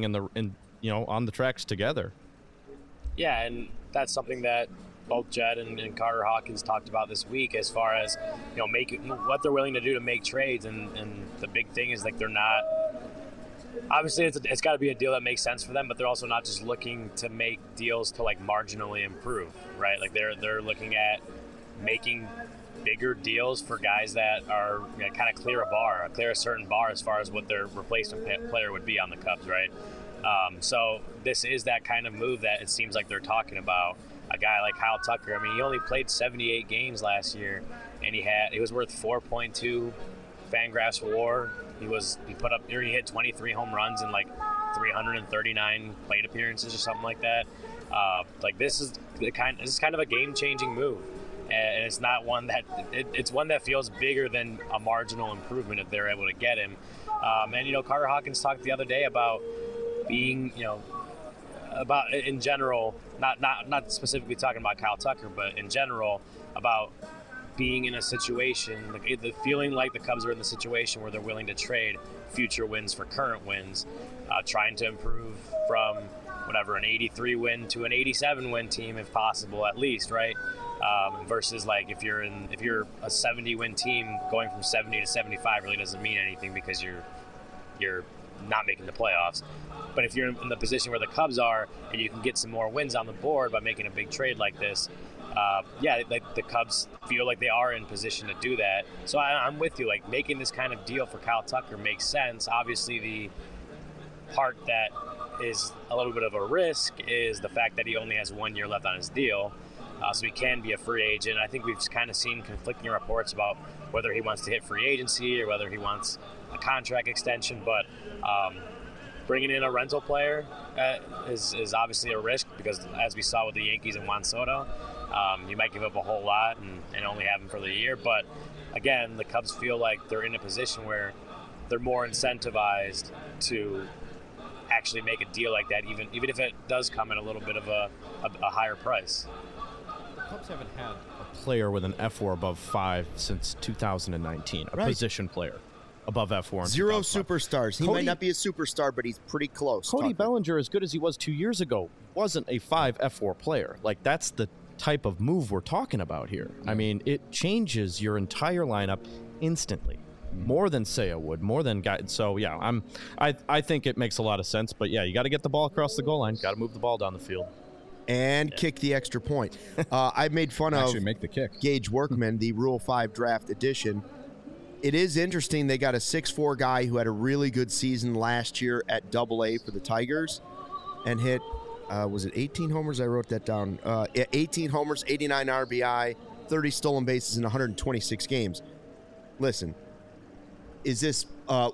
on the tracks together. Yeah, and that's something that both Jed and Carter Hawkins talked about this week as far as, making what they're willing to do to make trades. And the big thing is, like, they're not – obviously it's got to be a deal that makes sense for them, but they're also not just looking to make deals to, like, marginally improve, right? Like, they're looking at making bigger deals for guys that are kind of clear a certain bar as far as what their replacement player would be on the Cubs, right? So this is that kind of move that it seems like they're talking about. A guy like Kyle Tucker, I mean, he only played 78 games last year, and he was worth 4.2 Fangraphs WAR. He hit 23 home runs in like 339 plate appearances or something like that. This is kind of a game-changing move, and it's not one that it's one that feels bigger than a marginal improvement if they're able to get him. And Carter Hawkins talked the other day about being about in general, not specifically talking about Kyle Tucker, but in general about being in a situation, the feeling like the Cubs are in the situation where they're willing to trade future wins for current wins, trying to improve from an 83 win to an 87 win team if possible, at least, right? Versus like if you're a 70 win team, going from 70 to 75 really doesn't mean anything because you're not making the playoffs. But if you're in the position where the Cubs are and you can get some more wins on the board by making a big trade like this, the Cubs feel like they are in position to do that. So I'm with you. Like, making this kind of deal for Kyle Tucker makes sense. Obviously, the part that is a little bit of a risk is the fact that he only has 1 year left on his deal. So he can be a free agent. I think we've kind of seen conflicting reports about whether he wants to hit free agency or whether he wants a contract extension. But bringing in a rental player is obviously a risk because, as we saw with the Yankees and Juan Soto, you might give up a whole lot and only have him for the year. But again, the Cubs feel like they're in a position where they're more incentivized to actually make a deal like that, even if it does come at a little bit of a higher price. The Cubs haven't had a player with an F4 above 5 since 2019, a position player above F4. Zero superstars. He might not be a superstar, but he's pretty close. Cody Bellinger, as good as he was 2 years ago, wasn't a 5 F4 player. Like, that's the type of move we're talking about here. I mean, it changes your entire lineup instantly. More than Seiya would, more than guy. So yeah, I think it makes a lot of sense. But yeah, you got to get the ball across the goal line. Got to move the ball down the field and kick the extra point. I made fun of make the kick. Gage Workman, the Rule 5 draft edition. It is interesting. They got a 6'4" guy who had a really good season last year at AA for the Tigers, and hit. Was it 18 homers? I wrote that down. 18 homers, 89 RBI, 30 stolen bases in 126 games. Listen. Is this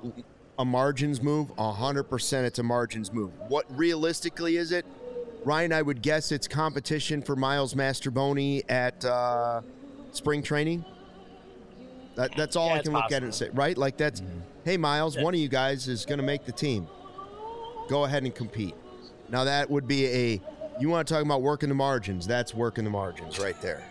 a margins move? 100% it's a margins move. What realistically is it? Ryan, I would guess it's competition for Miles Mastroboni at spring training. That's all I can look at it and say, right? Like that's, hey, Miles, one of you guys is going to make the team. Go ahead and compete. Now that would be you want to talk about working the margins. That's working the margins right there.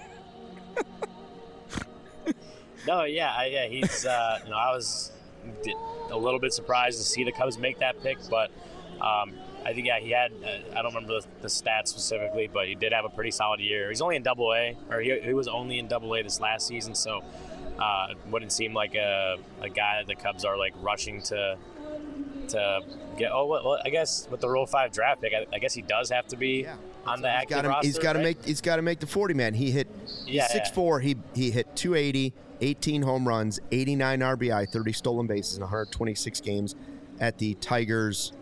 No, yeah, he's. I was a little bit surprised to see the Cubs make that pick, but I think he had. I don't remember the stats specifically, but he did have a pretty solid year. He's only in AA, or he was only in AA this last season, so it wouldn't seem like a guy that the Cubs are like rushing to get. Oh, well, I guess with the Rule 5 draft pick, I guess he does have to be on the active roster. He's got to make the 40 man. He hit 6'4". He hit 280. 18 home runs, 89 RBI, 30 stolen bases in 126 games at the Tigers'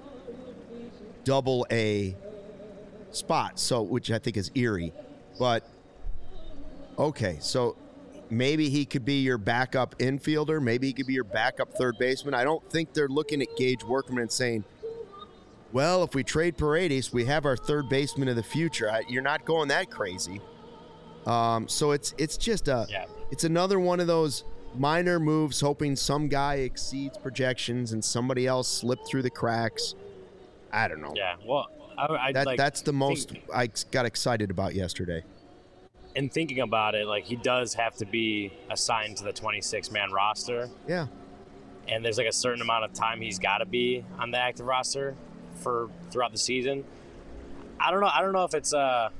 AA spot, which I think is eerie. But, okay, so maybe he could be your backup infielder. Maybe he could be your backup third baseman. I don't think they're looking at Gage Workman and saying, well, if we trade Paredes, we have our third baseman of the future. You're not going that crazy. So it's just it's another one of those minor moves, hoping some guy exceeds projections and somebody else slipped through the cracks. I don't know. Yeah, well, that's the most I got excited about yesterday. And thinking about it, like, he does have to be assigned to the 26-man roster. Yeah. And there's like a certain amount of time he's got to be on the active roster for throughout the season. I don't know if it's a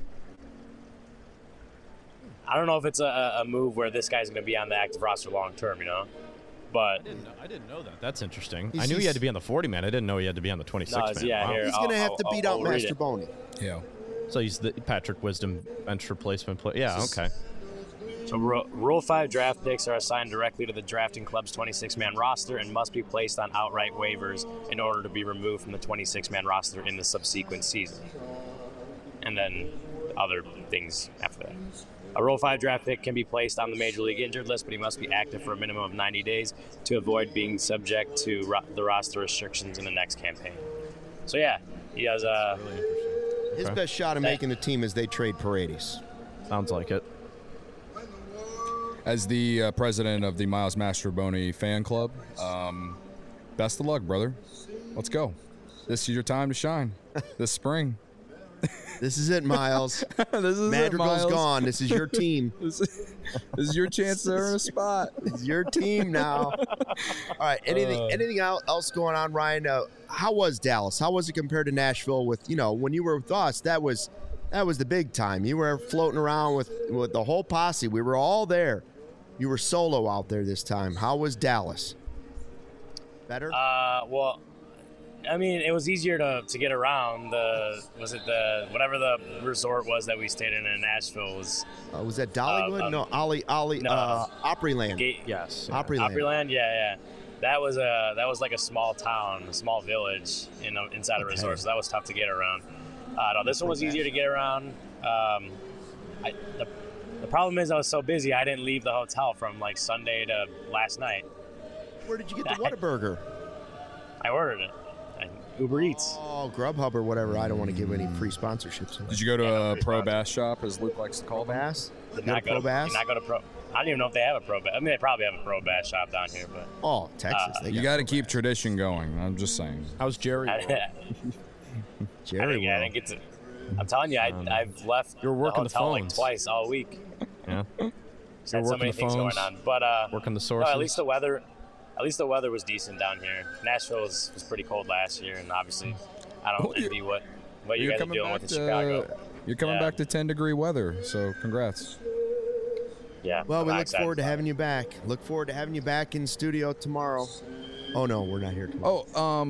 move where this guy's going to be on the active roster long term, you know. But I didn't know that. That's interesting. I knew he had to be on the 40-man. I didn't know he had to be on the 26-man. He's going to have to beat out Mastrobuoni. Yeah. So he's the Patrick Wisdom bench replacement player. Yeah, okay. So Rule 5 draft picks are assigned directly to the drafting club's 26-man roster and must be placed on outright waivers in order to be removed from the 26-man roster in the subsequent season. And then other things after that. A Rule 5 draft pick can be placed on the Major League Injured List, but he must be active for a minimum of 90 days to avoid being subject to the roster restrictions in the next campaign. So, yeah, he has really interesting. His best shot of making the team is they trade Paredes. Sounds like it. As the president of the Miles Mastrobuoni fan club, best of luck, brother. Let's go. This is your time to shine this spring. This is it, Miles. Madrigal's gone. This is your team. This is your chance to earn a spot. It's your team now. All right. Anything else going on, Ryan? How was Dallas? How was it compared to Nashville? With when you were with us, that was the big time. You were floating around with the whole posse. We were all there. You were solo out there this time. How was Dallas? Better? Well, I mean, it was easier to get around. Whatever the resort was that we stayed in Nashville was. Was that Dollywood? No, Opryland. Yes, Opryland. Yeah. That was like a small town, a small village inside a resort. So that was tough to get around. No, this one was easier to get around. The problem is I was so busy I didn't leave the hotel from like Sunday to last night. Where did you get the Whataburger? I ordered it. Uber Eats. Oh, Grubhub or whatever. I don't want to give any free sponsorships. Did you go to a Pro Bass shop, as Luke likes to call them? Bass? Did not go to Pro. I don't even know if they have a Pro Bass. I mean, they probably have a Pro Bass shop down here, but. Oh, Texas. You got to keep tradition going. I'm just saying. How's Jerry? Jerry, I didn't get to. I'm telling you, I've left You're working the hotel the like twice all week. Yeah. Just had so many things going on, but working the sources. No, at least the weather was decent down here. Nashville was pretty cold last year, and obviously, I don't envy what you guys are dealing with in Chicago. You're coming back to 10-degree weather, so congrats. Yeah. Well, we look forward to having you back. Look forward to having you back in studio tomorrow. Oh no, we're not here tomorrow.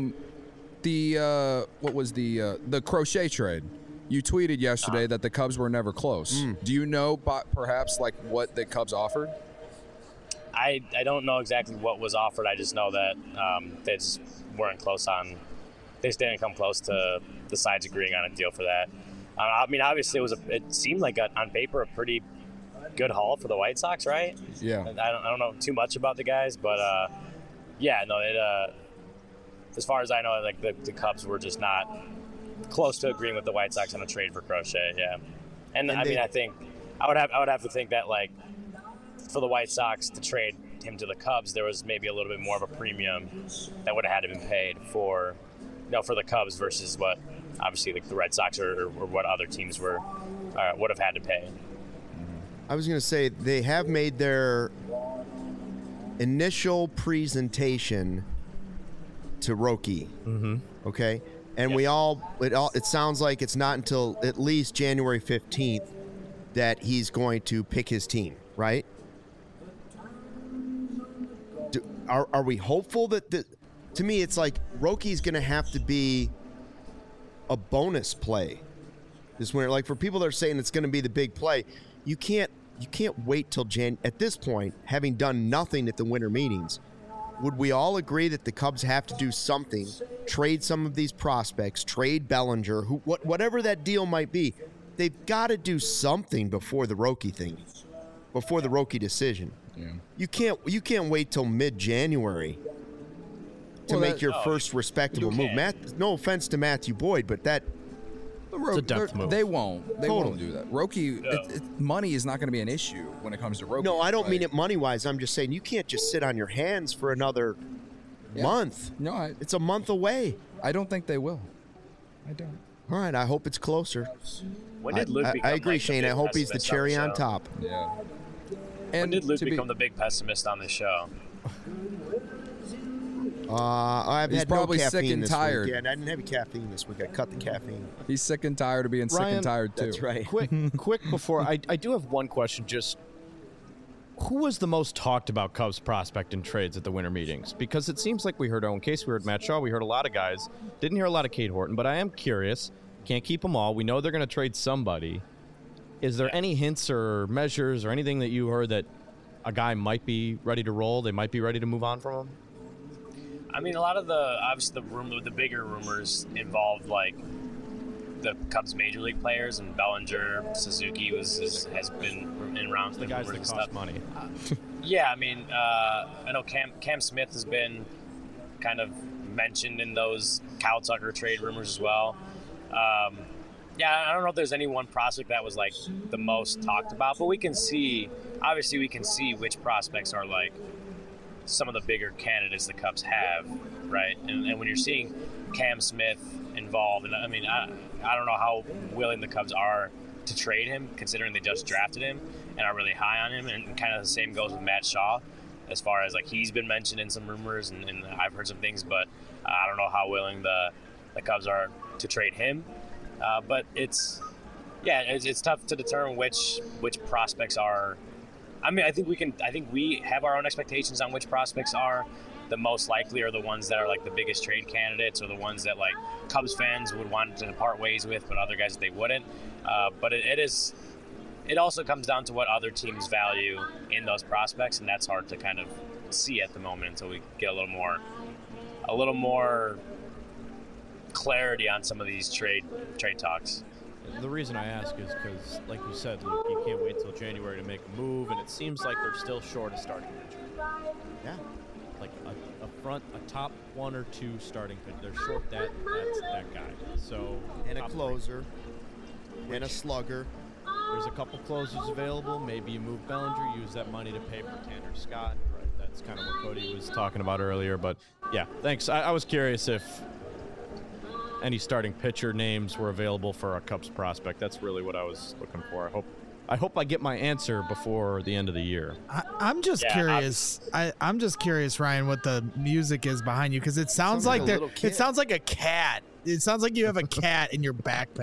What was the crochet trade? You tweeted yesterday that the Cubs were never close. Do you know perhaps like what the Cubs offered? I don't know exactly what was offered. I just know that they just weren't close on. They just didn't come close to the sides agreeing on a deal for that. I mean, obviously it seemed like on paper a pretty good haul for the White Sox, right? Yeah. I don't know too much about the guys, but as far as I know, like the Cubs were just not close to agreeing with the White Sox on a trade for Crochet. Yeah, and I mean, I think I would have to think that like for the White Sox to trade him to the Cubs, there was maybe a little bit more of a premium that would have had to be paid for the Cubs versus what obviously the Red Sox or what other teams would have had to pay. I was going to say they have made their initial presentation to Roki. Mm-hmm. Okay. And it sounds like it's not until at least January 15th that he's going to pick his team, right? Are we hopeful that to me, it's like Roki's going to have to be a bonus play this winter. Like for people that are saying it's going to be the big play, you can't wait till at this point, having done nothing at the winter meetings. Would we all agree that the Cubs have to do something, trade some of these prospects, trade Bellinger, whatever that deal might be? They've got to do something before the Roki thing. before the Roki decision. Yeah. You can't wait till mid-January to make your first respectable move. No offense to Matthew Boyd, but that it's a depth move. They won't. They won't do that. Roki, money is not going to be an issue when it comes to Roki. No, I don't mean it money-wise. I'm just saying you can't just sit on your hands for another month. No, it's a month away. I don't think they will. I don't. All right, I hope it's closer. When did Luke become I agree, Shane. I hope he's the cherry on top. Yeah. And when did Luke become the big pessimist on the show? I've He's had probably no caffeine sick and this tired. week. Yeah, I didn't have any caffeine this week. I cut the caffeine. He's sick and tired of being sick and tired too. That's right. Quick before I do have one question. Just who was the most talked about Cubs prospect in trades at the winter meetings? Because it seems like we heard Owen Case, we heard Matt Shaw, we heard a lot of guys. Didn't hear a lot of Cade Horton, but I am curious. Can't keep them all. We know they're going to trade somebody. Is there any hints or measures or anything that you heard that a guy might be ready to roll? They might be ready to move on from him? I mean, a lot of obviously the bigger rumors involved like the Cubs major league players, and Bellinger, Suzuki has been in rounds. The guys that cost money. Yeah, I mean, I know Cam Smith has been kind of mentioned in those Kyle Tucker trade rumors as well. Yeah, I don't know if there's any one prospect that was like the most talked about, but we can see which prospects are like some of the bigger candidates the Cubs have, right? And when you're seeing Cam Smith involved, and I mean, I don't know how willing the Cubs are to trade him, considering they just drafted him and are really high on him. And kind of the same goes with Matt Shaw, as far as like he's been mentioned in some rumors, and I've heard some things, but I don't know how willing the Cubs are to trade him. But it's tough to determine which prospects are. I mean, I think we have our own expectations on which prospects are the most likely, or the ones that are like the biggest trade candidates, or the ones that like Cubs fans would want to part ways with, but other guys they wouldn't. But it also comes down to what other teams value in those prospects, and that's hard to kind of see at the moment until we get a little more clarity on some of these trade talks. The reason I ask is because, like you said, Luke, you can't wait till January to make a move, and it seems like they're still short a starting pitcher. Yeah. Like a top one or two starting pitcher. They're short that guy. So and a closer. And a slugger. There's a couple closers available. Maybe you move Bellinger, use that money to pay for Tanner Scott. Right. That's kind of what Cody was talking about earlier. But yeah, thanks. I was curious if any starting pitcher names were available for a Cubs prospect. That's really what I was looking for. I hope I get my answer before the end of the year. I'm just curious. I'm just curious, Ryan, what the music is behind you, because it sounds like it sounds like a cat. It sounds like you have a cat in your backpack.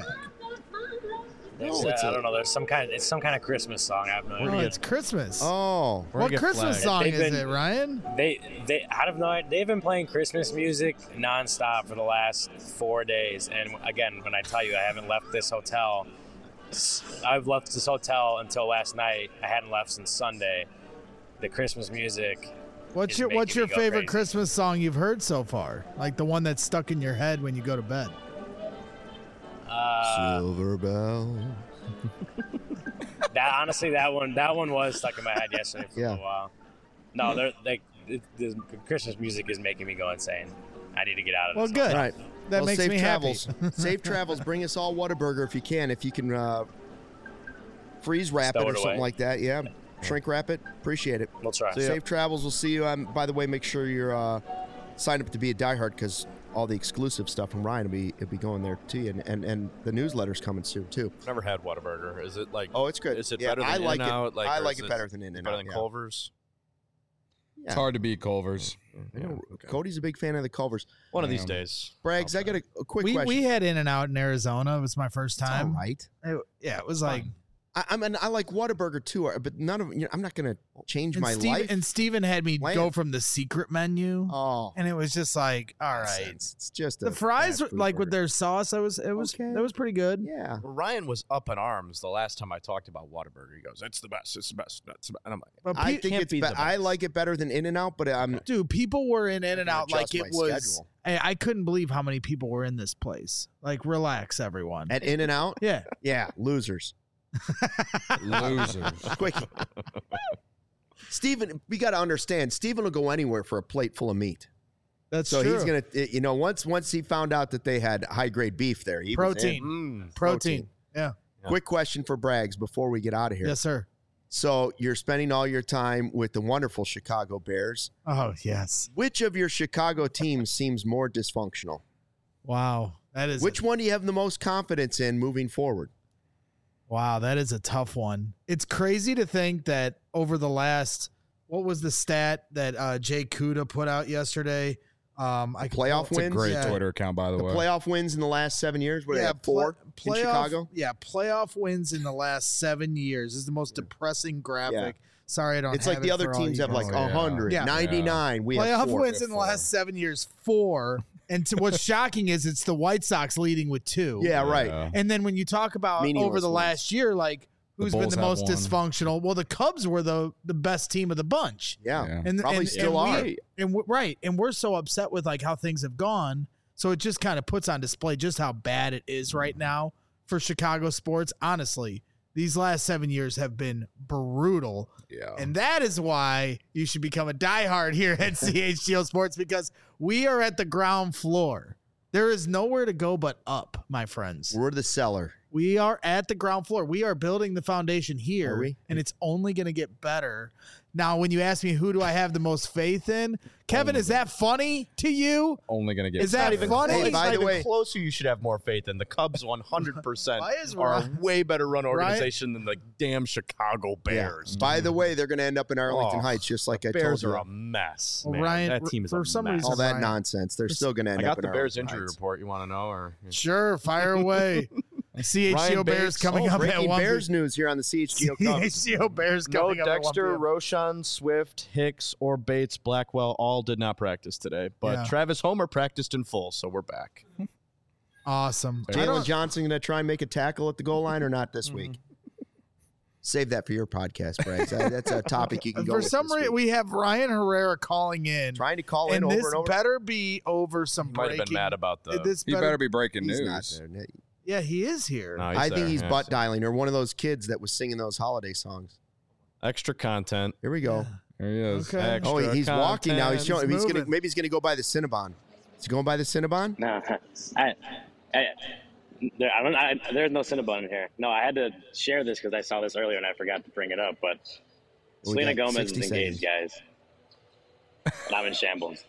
I don't know. It's some kind of Christmas song. I have no idea. It's Christmas. Oh, what Christmas song is it, Ryan? They I have no idea. They've been playing Christmas music nonstop for the last 4 days. And again, when I tell you I haven't left this hotel, I've left this hotel until last night. I hadn't left since Sunday. The Christmas music. What's your favorite crazy. Christmas song you've heard so far? Like the one that's stuck in your head when you go to bed. Silver Bell. That one was stuck in my head yesterday for a while. No, the Christmas music is making me go insane. I need to get out of this. Well, good. All right. That makes safe me travels. happy. Safe travels. Bring us all Whataburger if you can. If you can freeze wrap it or something like that. Yeah. Shrink wrap it. Appreciate it. We'll try. Safe travels. We'll see you. By the way, make sure you're signed up to be a diehard, because all the exclusive stuff from Ryan will be going there to you, and the newsletter's coming soon too. Never had Whataburger. Is it like? Oh, it's good. Is it better than In-N-Out? Like, I like it better than In-N-Out. Better than Culver's. Yeah. It's hard to beat Culver's. I know. Okay. Cody's a big fan of the Culver's. One of these days. Braggs, I got a quick question. We had In-N-Out in Arizona. It was my first time. All right. It was like. I like Whataburger too, but none of I'm not going to change my life. And Steven had me go from the secret menu. Oh, and it was just like, all right, it's just the fries like with their sauce. That was pretty good. Yeah. Well, Ryan was up in arms the last time I talked about Whataburger. He goes, "It's the best. It's the best." And I'm like, but I think it's I like it better than In-N-Out, but dude, people were in In-N-Out like it was. I couldn't believe how many people were in this place. Like, relax, everyone. At In-N-Out? Yeah. Yeah, losers. Losers. Quickie. Steven, we got to understand, Steven will go anywhere for a plate full of meat. That's so true. He's going to, once he found out that they had high-grade beef there. He Protein. Protein. Yeah. Quick question for Braggs before we get out of here. Yes, sir. So you're spending all your time with the wonderful Chicago Bears. Oh, yes. Which of your Chicago teams seems more dysfunctional? Wow. Which one do you have the most confidence in moving forward? Wow, that is a tough one. It's crazy to think that over the last, what was the stat that Jay Kuda put out yesterday? Playoff wins? It's a great Twitter account, by the way. Playoff wins in the last 7 years? What do they have, 4 in Chicago? Yeah, playoff wins in the last 7 years. This is the most depressing graphic. Yeah. Sorry, I don't have it. It's like the other teams have like 100, 99. We have 4. Playoff wins in the last 7 years, 4. And what's shocking is it's the White Sox leading with 2. Yeah, right. And then when you talk about over the last year, like who's been the most dysfunctional? Well, the Cubs were the best team of the bunch. Yeah. And probably still are. And we're so upset with like how things have gone. So it just kind of puts on display just how bad it is right now for Chicago sports. Honestly, these last 7 years have been brutal. Yeah. And that is why you should become a diehard here at CHGO Sports, because we are at the ground floor. There is nowhere to go but up, my friends. We're the cellar. We are at the ground floor. We are building the foundation here, and it's only going to get better. Now, when you ask me who do I have the most faith in, Kevin, is that funny to you? Only going to get Is that even funny? Hey, by the way, closer you should have more faith in. The Cubs 100% are a way better run organization than the damn Chicago Bears. Yeah. By the way, they're going to end up in Arlington Heights, just like I told you. Bears are a mess. Well, man. Ryan, that team is a mess. All that nonsense. They're still going to end up in Arlington Heights. I got the Bears injury report. You want to know? Or Sure, fire away. CHGO Bears coming up at 1. Bears news here on the CHGO Cubs. CHGO Bears coming up at 1. Dexter, Roschon, Swift, Hicks, or Bates, Blackwell all did not practice today. But Travis Homer practiced in full, so we're back. Awesome. Jalen Johnson going to try and make a tackle at the goal line or not this week? Save that for your podcast, Braggs. That's a topic you can go with. For some reason, we have Ryan Herrera calling in. Trying to call in over and over. And this better be over some breaking. Might have been mad about the... He better be breaking news. Not there. Yeah, he is here. No, I think he's butt dialing, or one of those kids that was singing those holiday songs. Extra content. Here we go. There he is. Okay. He's walking now. He's showing. Maybe he's gonna go by the Cinnabon. Is he going by the Cinnabon? No, there's no Cinnabon in here. No, I had to share this because I saw this earlier and I forgot to bring it up. But Selena Gomez is engaged, guys. And I'm in shambles.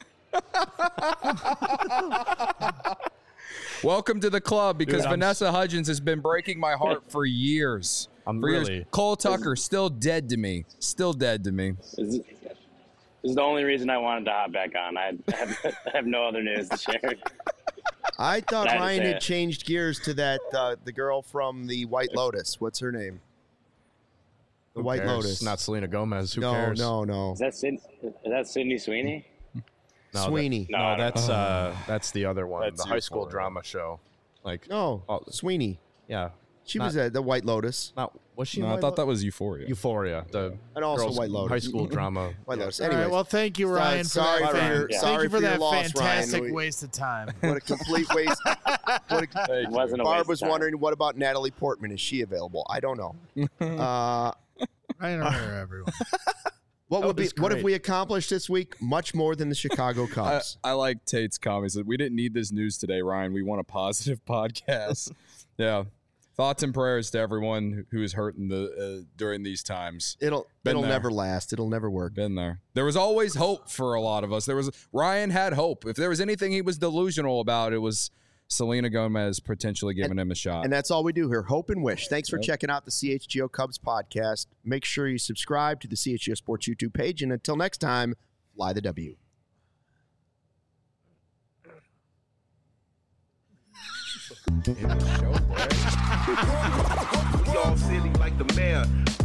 Welcome to the club, because Vanessa Hudgens has been breaking my heart for years. Cole Tucker, still dead to me. Still dead to me. This is the only reason I wanted to hop back on. I have no other news to share. I thought Ryan had changed gears to that the girl from the White Lotus. What's her name? The White Lotus. Not Selena Gomez. Who cares? No. Is that Sydney Sweeney? No, Sweeney. That's the other one. That's the high school drama show. Sweeney. Yeah. She was at the White Lotus. Was she? No, I thought that was Euphoria. Euphoria. And also White Lotus. High school drama. White Lotus. Anyway, Anyways, well, thank you, Ryan. Sorry for that fantastic waste of time. What a complete waste. Barb was wondering, what about Natalie Portman? Is she available? I don't know. I don't know, everyone. What have we accomplished this week? Much more than the Chicago Cubs. I like Tate's comments. We didn't need this news today, Ryan. We want a positive podcast. Yeah. Thoughts and prayers to everyone who is hurt during these times. It'll never last. It'll never work. Been there. There was always hope for a lot of us. Ryan had hope. If there was anything he was delusional about, it was Selena Gomez potentially giving him a shot. And that's all we do here. Hope and wish. Thanks for checking out the CHGO Cubs podcast. Make sure you subscribe to the CHGO Sports YouTube page. And until next time, fly the W. We all silly like the mayor.